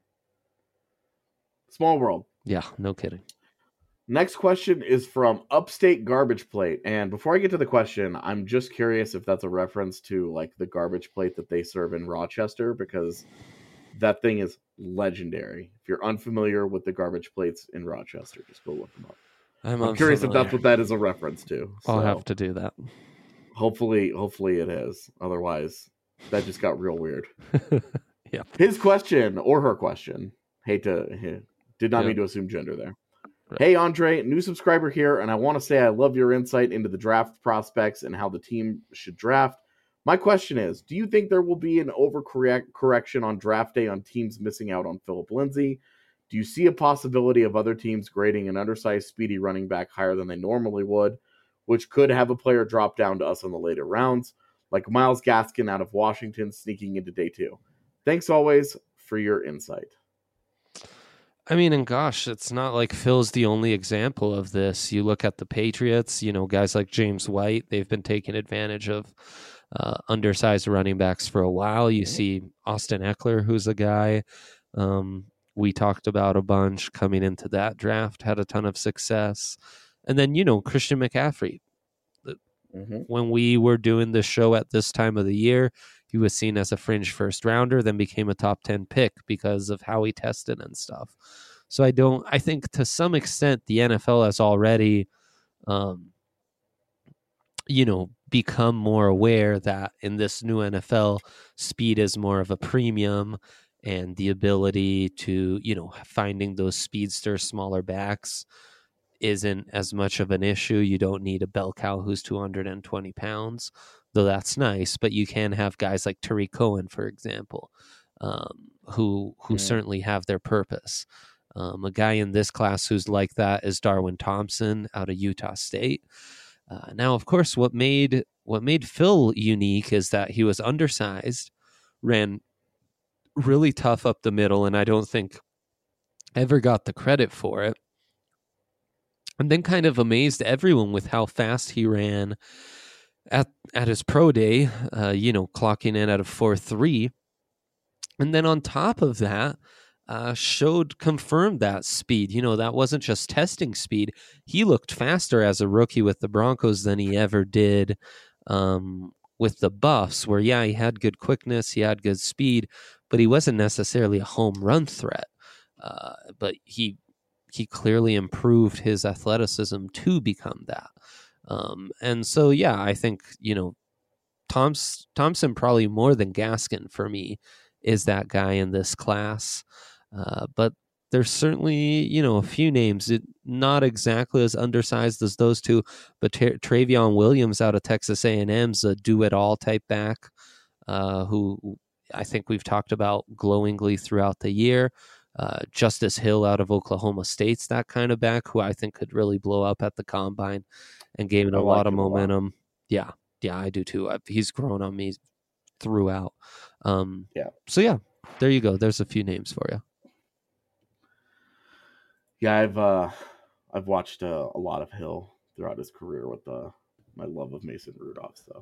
Small world. Yeah, no kidding. Next question is from Upstate Garbage Plate. And before I get to the question, I'm just curious if that's a reference to like the garbage plate that they serve in Rochester, because that thing is legendary. If you're unfamiliar with the garbage plates in Rochester, just go look them up. I'm curious if that's what that is a reference to. I'll have to do that. Hopefully it is. Otherwise, that just got real weird. Yeah. His question or her question. Did not mean to assume gender there. Right. Hey, Andre, new subscriber here, and I want to say I love your insight into the draft prospects and how the team should draft. My question is, do you think there will be an overcorrection on draft day on teams missing out on Philip Lindsay? Do you see a possibility of other teams grading an undersized, speedy running back higher than they normally would, which could have a player drop down to us in the later rounds, like Myles Gaskin out of Washington sneaking into day 2? Thanks always for your insight. I mean, and gosh, it's not like Phil's the only example of this. You look at the Patriots, you know, guys like James White, they've been taking advantage of undersized running backs for a while. You see Austin Eckler, who's a guy we talked about a bunch coming into that draft, had a ton of success. And then, you know, Christian McCaffrey. When we were doing this show at this time of the year, he was seen as a fringe first rounder, then became a top 10 pick because of how he tested and stuff. So I think to some extent the NFL has already, become more aware that in this new NFL, speed is more of a premium, and the ability to, finding those speedster smaller backs isn't as much of an issue. You don't need a bell cow who's 220 pounds, though that's nice, but you can have guys like Tariq Cohen, for example, who certainly have their purpose. A guy in this class who's like that is Darwin Thompson out of Utah State. Now, of course, what made Phil unique is that he was undersized, ran really tough up the middle, and I don't think ever got the credit for it. And then kind of amazed everyone with how fast he ran at his pro day, clocking in at a 4.3. And then on top of that, confirmed that speed. That wasn't just testing speed. He looked faster as a rookie with the Broncos than he ever did with the Buffs, where, he had good quickness, he had good speed, but he wasn't necessarily a home run threat. But he clearly improved his athleticism to become that. And so, I think, Thompson probably more than Gaskin for me is that guy in this class. But there's certainly, a few names, not exactly as undersized as those two, but Travion Williams out of Texas A&M's a do-it-all type back, who I think we've talked about glowingly throughout the year. Justice Hill out of Oklahoma State's that kind of back, who I think could really blow up at the combine and gain a lot of momentum. Yeah, I do too. He's grown on me throughout. So there you go. There's a few names for you. Yeah, I've watched a lot of Hill throughout his career with my love of Mason Rudolph. So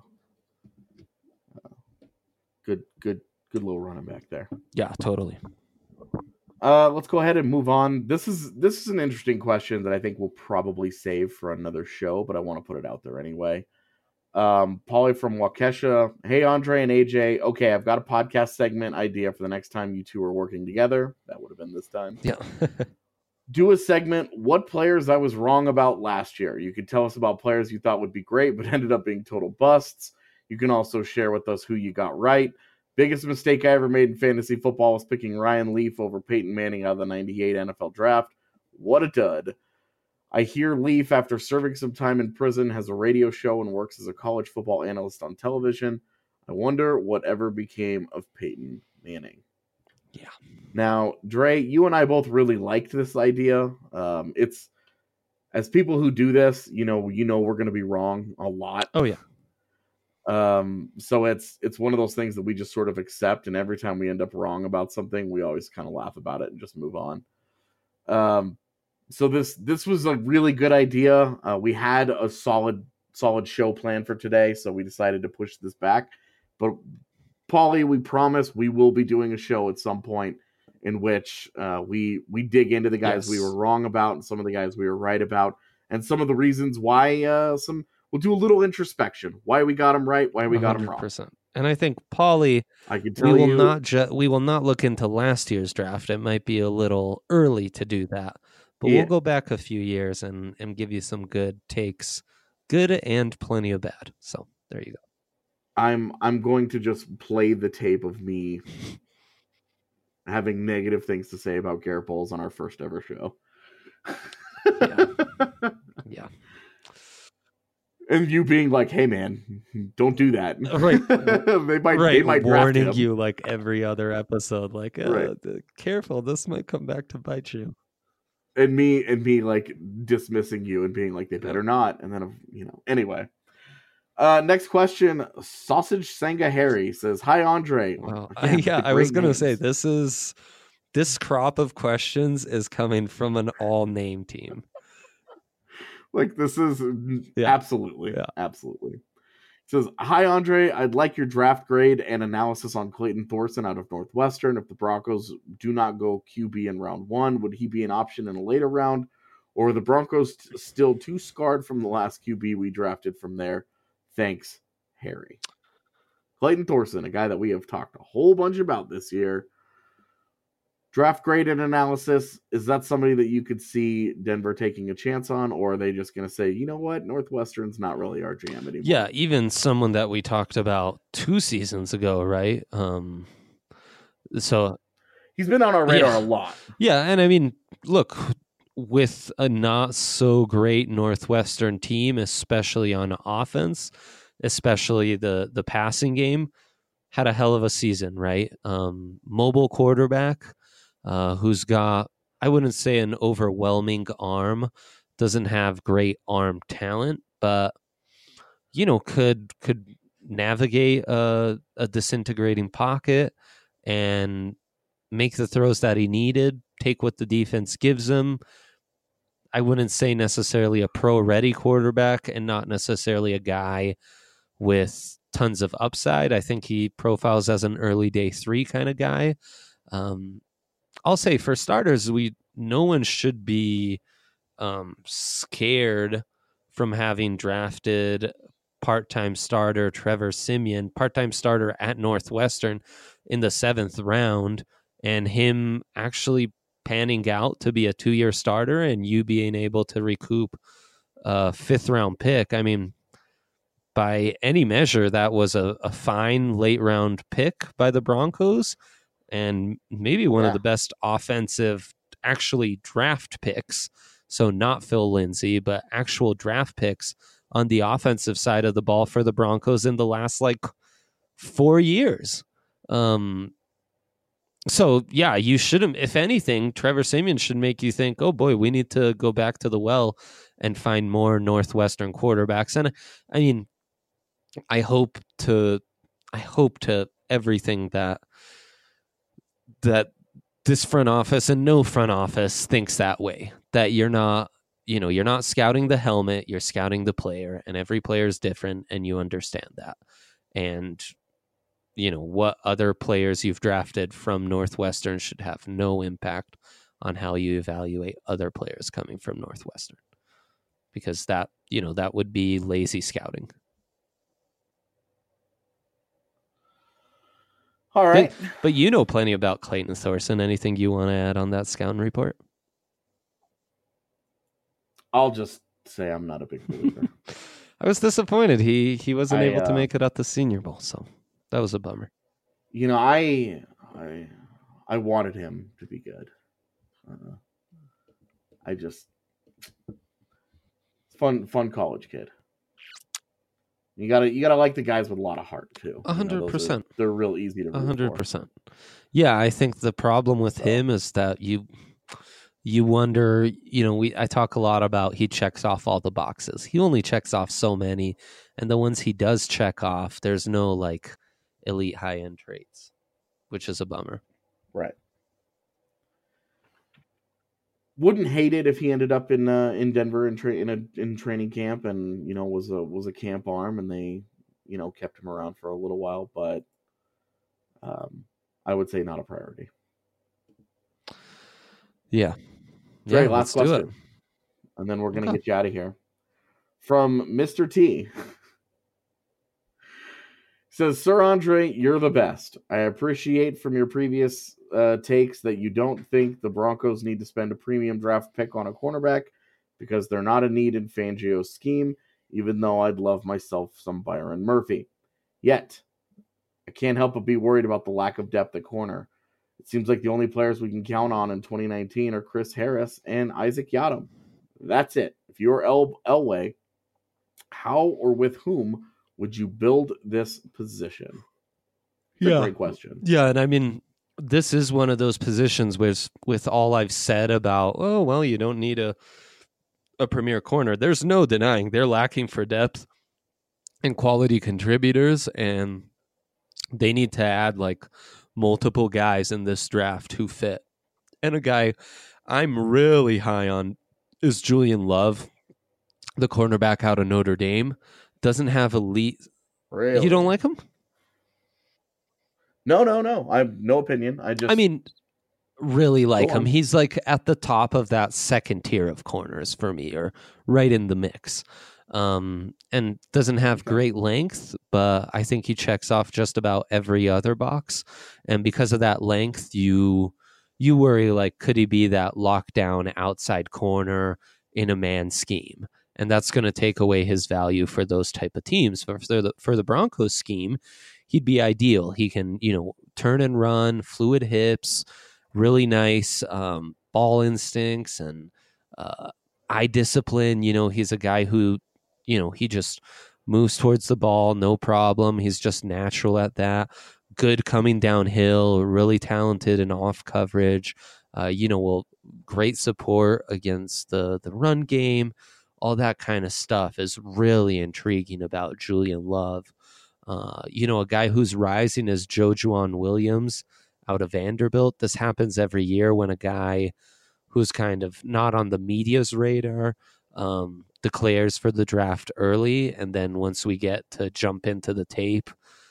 good little running back there. Yeah, totally. Let's go ahead and move on. This is an interesting question that I think we'll probably save for another show, but I want to put it out there anyway. Paulie from Waukesha. Hey, Andre and AJ. Okay, I've got a podcast segment idea for the next time you two are working together. That would have been this time. Yeah. Do a segment, what players I was wrong about last year. You could tell us about players you thought would be great, but ended up being total busts. You can also share with us who you got right. Biggest mistake I ever made in fantasy football was picking Ryan Leaf over Peyton Manning out of the 98 NFL draft. What a dud. I hear Leaf, after serving some time in prison, has a radio show and works as a college football analyst on television. I wonder whatever became of Peyton Manning. Yeah. Now, Dre, you and I both really liked this idea. It's, as people who do this, you know we're going to be wrong a lot. Oh, yeah. So it's one of those things that we just sort of accept, and every time we end up wrong about something, we always kind of laugh about it and just move on. So this was a really good idea. We had a solid show planned for today, so we decided to push this back. But Paulie, we promise we will be doing a show at some point in which we dig into the guys we were wrong about and some of the guys we were right about, and some of the reasons why. We'll do a little introspection. Why we got them right, why we got them wrong. And I think, Paulie, we will not look into last year's draft. It might be a little early to do that. But we'll go back a few years and give you some good takes. Good and plenty of bad. So there you go. I'm going to just play the tape of me having negative things to say about Garrett Bowles on our first ever show. Yeah. And you being like, "Hey, man, don't do that." Right. they might warning you like every other episode, like, careful, this might come back to bite you. And me like dismissing you and being like, they better not. And then anyway. Next question. Sausage Sanga Harry says, "Hi, Andre." Wow. I was gonna say this crop of questions is coming from an all name team. Like, this is absolutely. It says, "Hi, Andre. I'd like your draft grade and analysis on Clayton Thorson out of Northwestern. If the Broncos do not go QB in round 1, would he be an option in a later round? Or are the Broncos still too scarred from the last QB we drafted from there? Thanks, Harry." Clayton Thorson, a guy that we have talked a whole bunch about this year. Draft grade and analysis, is that somebody that you could see Denver taking a chance on, or are they just going to say, you know what, Northwestern's not really our jam anymore? Yeah, even someone that we talked about 2 seasons ago, right? So he's been on our radar a lot. Yeah, and I mean, look, with a not so great Northwestern team, especially on offense, especially the passing game, had a hell of a season, right? Mobile quarterback. Who's got, I wouldn't say an overwhelming arm, doesn't have great arm talent, but, could navigate a disintegrating pocket and make the throws that he needed, take what the defense gives him. I wouldn't say necessarily a pro-ready quarterback and not necessarily a guy with tons of upside. I think he profiles as an early day 3 kind of guy. I'll say, for starters, no one should be scared from having drafted part-time starter Trevor Siemian, part-time starter at Northwestern in the 7th round, and him actually panning out to be a 2-year starter and you being able to recoup a 5th-round pick. I mean, by any measure, that was a fine late-round pick by the Broncos, and maybe one of the best offensive actually draft picks. So not Phil Lindsay, but actual draft picks on the offensive side of the ball for the Broncos in the last 4 years. So yeah, you shouldn't, if anything, Trevor Siemian should make you think, oh boy, we need to go back to the well and find more Northwestern quarterbacks. And I mean, I hope to everything that this front office and no front office thinks that way, that you're not scouting the helmet, you're scouting the player, and every player is different, and you understand that. And what other players you've drafted from Northwestern should have no impact on how you evaluate other players coming from Northwestern, because that would be lazy scouting. All right. But you know plenty about Clayton Thorson. Anything you want to add on that scouting report? I'll just say I'm not a big believer. I was disappointed. He wasn't able to make it at the Senior Bowl, so that was a bummer. I wanted him to be good. Fun college kid. You gotta like the guys with a lot of heart too. 100%. They're real easy to root 100%. Yeah, I think the problem with him is that you wonder. I talk a lot about he checks off all the boxes. He only checks off so many, and the ones he does check off, there's no like elite high end traits, which is a bummer. Right. Wouldn't hate it if he ended up in Denver in training camp and was a camp arm and they kept him around for a little while, but I would say not a priority. Yeah. Great, last question, and then we're gonna get you out of here. From Mr. T. Says, Sir Andre, you're the best. I appreciate from your previous takes that you don't think the Broncos need to spend a premium draft pick on a cornerback because they're not a need in Fangio's scheme, even though I'd love myself some Byron Murphy. Yet, I can't help but be worried about the lack of depth at corner. It seems like the only players we can count on in 2019 are Chris Harris and Isaac Yiadom. That's it. If you're Elway, how or with whom would you build this position? Great question. Yeah, and I mean, this is one of those positions with all I've said about, you don't need a premier corner. There's no denying they're lacking for depth and quality contributors, and they need to add like multiple guys in this draft who fit. And a guy I'm really high on is Julian Love, the cornerback out of Notre Dame. Doesn't have elite. Really? You don't like him? No. I have no opinion. Really like him. He's like at the top of that second tier of corners for me, or right in the mix. And doesn't have great length, but I think he checks off just about every other box. And because of that length, you worry, like, could he be that lockdown outside corner in a man scheme? And that's going to take away his value for those type of teams. For the Broncos scheme, he'd be ideal. He can, turn and run, fluid hips, really nice ball instincts and eye discipline. He's a guy who, he just moves towards the ball, no problem. He's just natural at that. Good coming downhill, really talented in off coverage. Great support against the run game. All that kind of stuff is really intriguing about Julian Love. A guy who's rising is Jojuan Williams out of Vanderbilt. This happens every year when a guy who's kind of not on the media's radar declares for the draft early, and then once we get to jump into the tape,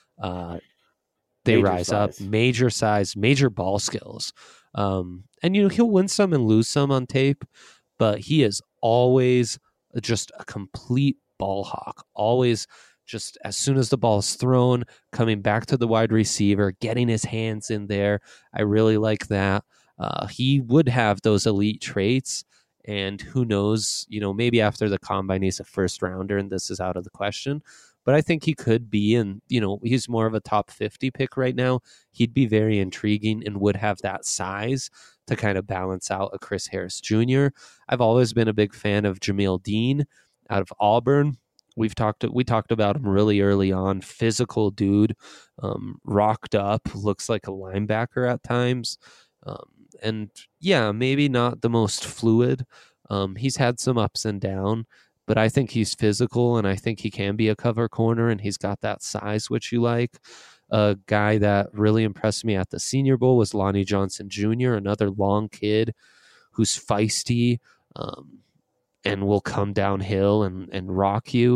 they rise up. Major size, major ball skills. And he'll win some and lose some on tape, but he is always just a complete ball hawk. Always just as soon as the ball is thrown, coming back to the wide receiver, getting his hands in there. I really like that. He would have those elite traits, and who knows, maybe after the combine he's a first rounder and this is out of the question. But I think he could be, and he's more of a top 50 pick right now. He'd be very intriguing and would have that size to kind of balance out a Chris Harris Jr. I've always been a big fan of Jameel Dean out of Auburn. We talked about him really early on. Physical dude, rocked up, looks like a linebacker at times. And yeah, maybe not the most fluid. He's had some ups and downs, but I think he's physical, and I think he can be a cover corner, and he's got that size, which you like. A guy that really impressed me at the Senior Bowl was Lonnie Johnson Jr., another long kid who's feisty and will come downhill and rock you.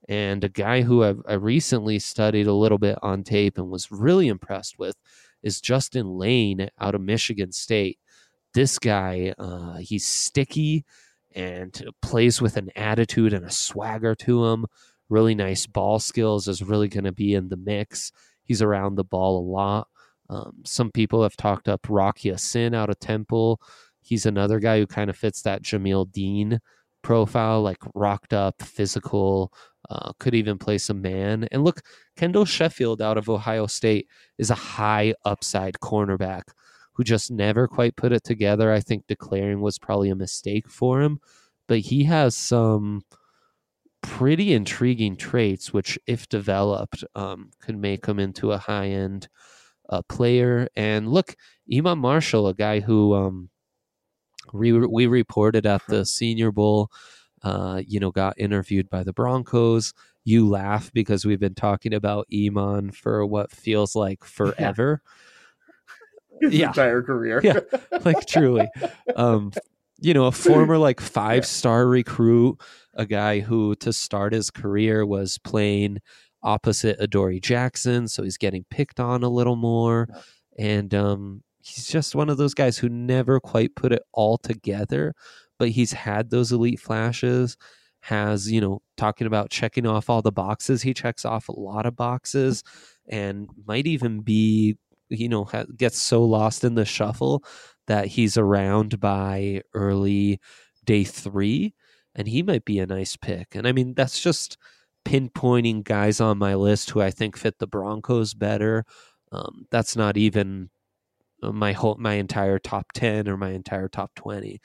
And a guy who I recently studied a little bit on tape and was really impressed with is Justin Lane out of Michigan State. This guy, he's sticky and plays with an attitude and a swagger to him. Really nice ball skills, is really going to be in the mix. He's around the ball a lot. Some people have talked up Rocky Sin out of Temple. He's another guy who kind of fits that Jamil Dean profile, like rocked up, physical, could even play some man. And look, Kendall Sheffield out of Ohio State is a high upside cornerback who just never quite put it together. I think declaring was probably a mistake for him, but he has some pretty intriguing traits, which if developed, could make him into a high-end player. And look, Iman Marshall, a guy who we reported at the Senior Bowl, got interviewed by the Broncos. You laugh because we've been talking about Iman for what feels like forever. His entire career. Yeah, like truly. A former like 5-star recruit, a guy who to start his career was playing opposite Adoree Jackson, so he's getting picked on a little more. And he's just one of those guys who never quite put it all together, but he's had those elite flashes, has, talking about checking off all the boxes. He checks off a lot of boxes and might even be, gets so lost in the shuffle that he's around by early day 3, and he might be a nice pick. And I mean, that's just pinpointing guys on my list who I think fit the Broncos better. That's not even my entire top 10 or my entire top 20.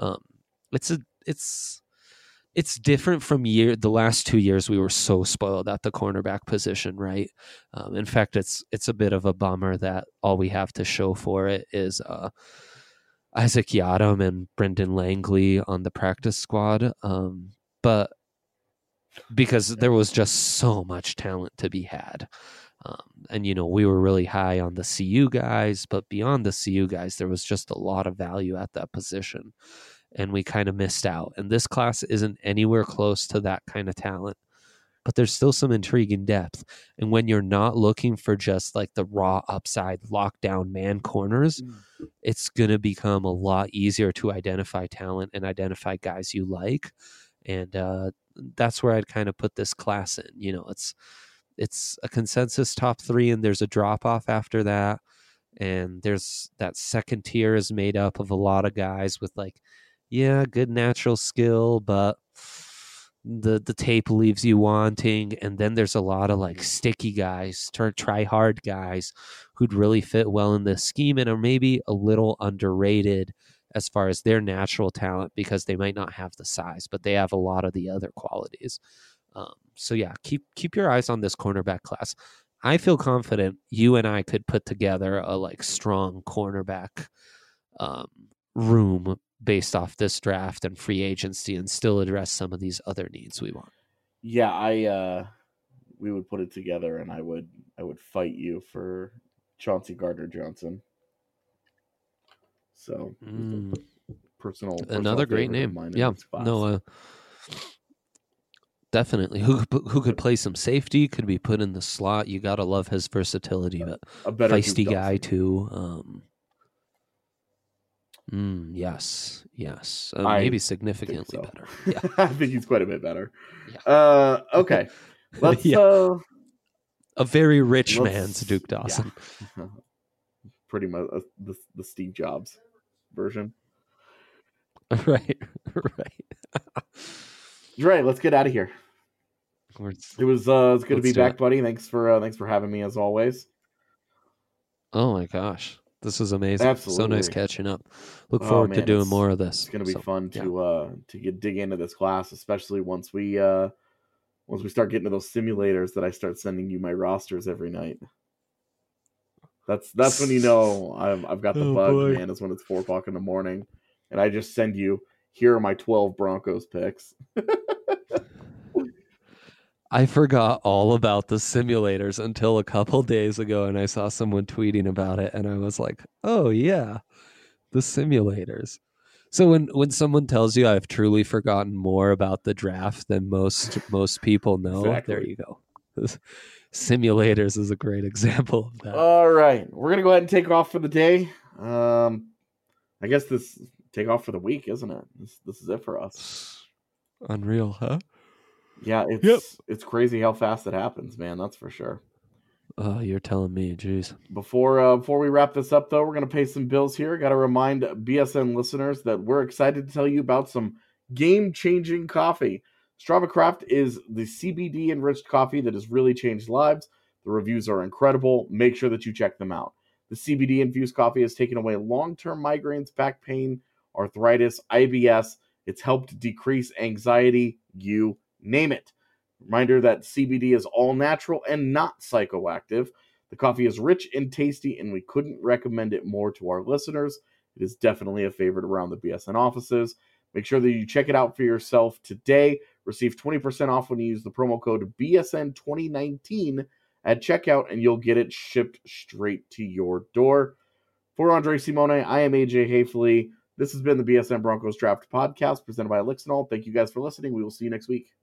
It's different from the last 2 years. We were so spoiled at the cornerback position, right? In fact, it's a bit of a bummer that all we have to show for it is Isaac Yiadom and Brendan Langley on the practice squad. But because there was just so much talent to be had. And we were really high on the CU guys, but beyond the CU guys, there was just a lot of value at that position. And we kind of missed out. And this class isn't anywhere close to that kind of talent. But there's still some intriguing depth. And when you're not looking for just like the raw upside lockdown man corners, it's going to become a lot easier to identify talent and identify guys you like. And that's where I'd kind of put this class in. It's a consensus top 3, and there's a drop off after that. And there's that second tier is made up of a lot of guys with good natural skill, but the tape leaves you wanting. And then there's a lot of sticky guys, try hard guys who'd really fit well in this scheme and are maybe a little underrated as far as their natural talent because they might not have the size, but they have a lot of the other qualities. So yeah, keep your eyes on this cornerback class. I feel confident you and I could put together a strong cornerback room based off this draft and free agency and still address some of these other needs we want. Yeah, we would put it together, and I would fight you for Chauncey Gardner-Johnson. So personal another great name. Yeah, no, definitely. Who could play some safety? Could be put in the slot. You gotta love his versatility, but a better feisty guy too. Yes. Maybe significantly so. Better. Yeah, I think he's quite a bit better. Yeah. Okay, let's. A very rich man's Duke Dawson. Yeah. Pretty much the Steve Jobs version. Right. Right. Let's get out of here. It was good to be back, buddy. Thanks for having me as always. Oh my gosh. This was amazing. Absolutely. So nice catching up. Look forward to doing more of this. It's going to be fun to dig into this class, especially once we start getting to those simulators that I start sending you my rosters every night. That's when I've got the bug, boy. Man. Is when it's 4:00 in the morning, and I just send you, here are my 12 Broncos picks. I forgot all about the simulators until a couple days ago, and I saw someone tweeting about it, and I was like, oh, yeah, the simulators. So when someone tells you I've truly forgotten more about the draft than most people know, Exactly. There you go. Simulators is a great example of that. All right, we're gonna go ahead and take off for the day. I guess this take off for the week, isn't it? This is it for us. Unreal, huh? Yeah, it's crazy how fast it happens, man. That's for sure. Oh, you're telling me, jeez. Before we wrap this up, though, we're going to pay some bills here. Got to remind BSN listeners that we're excited to tell you about some game-changing coffee. Strava Craft is the CBD-enriched coffee that has really changed lives. The reviews are incredible. Make sure that you check them out. The CBD-infused coffee has taken away long-term migraines, back pain, arthritis, IBS. It's helped decrease anxiety. You name it. Reminder that CBD is all natural and not psychoactive. The coffee is rich and tasty, and we couldn't recommend it more to our listeners. It is definitely a favorite around the BSN offices. Make sure that you check it out for yourself today. Receive 20% off when you use the promo code BSN2019 at checkout, and you'll get it shipped straight to your door. For Andre Simone, I am AJ Hafley. This has been the BSN Broncos Draft Podcast presented by Elixinol. Thank you guys for listening. We will see you next week.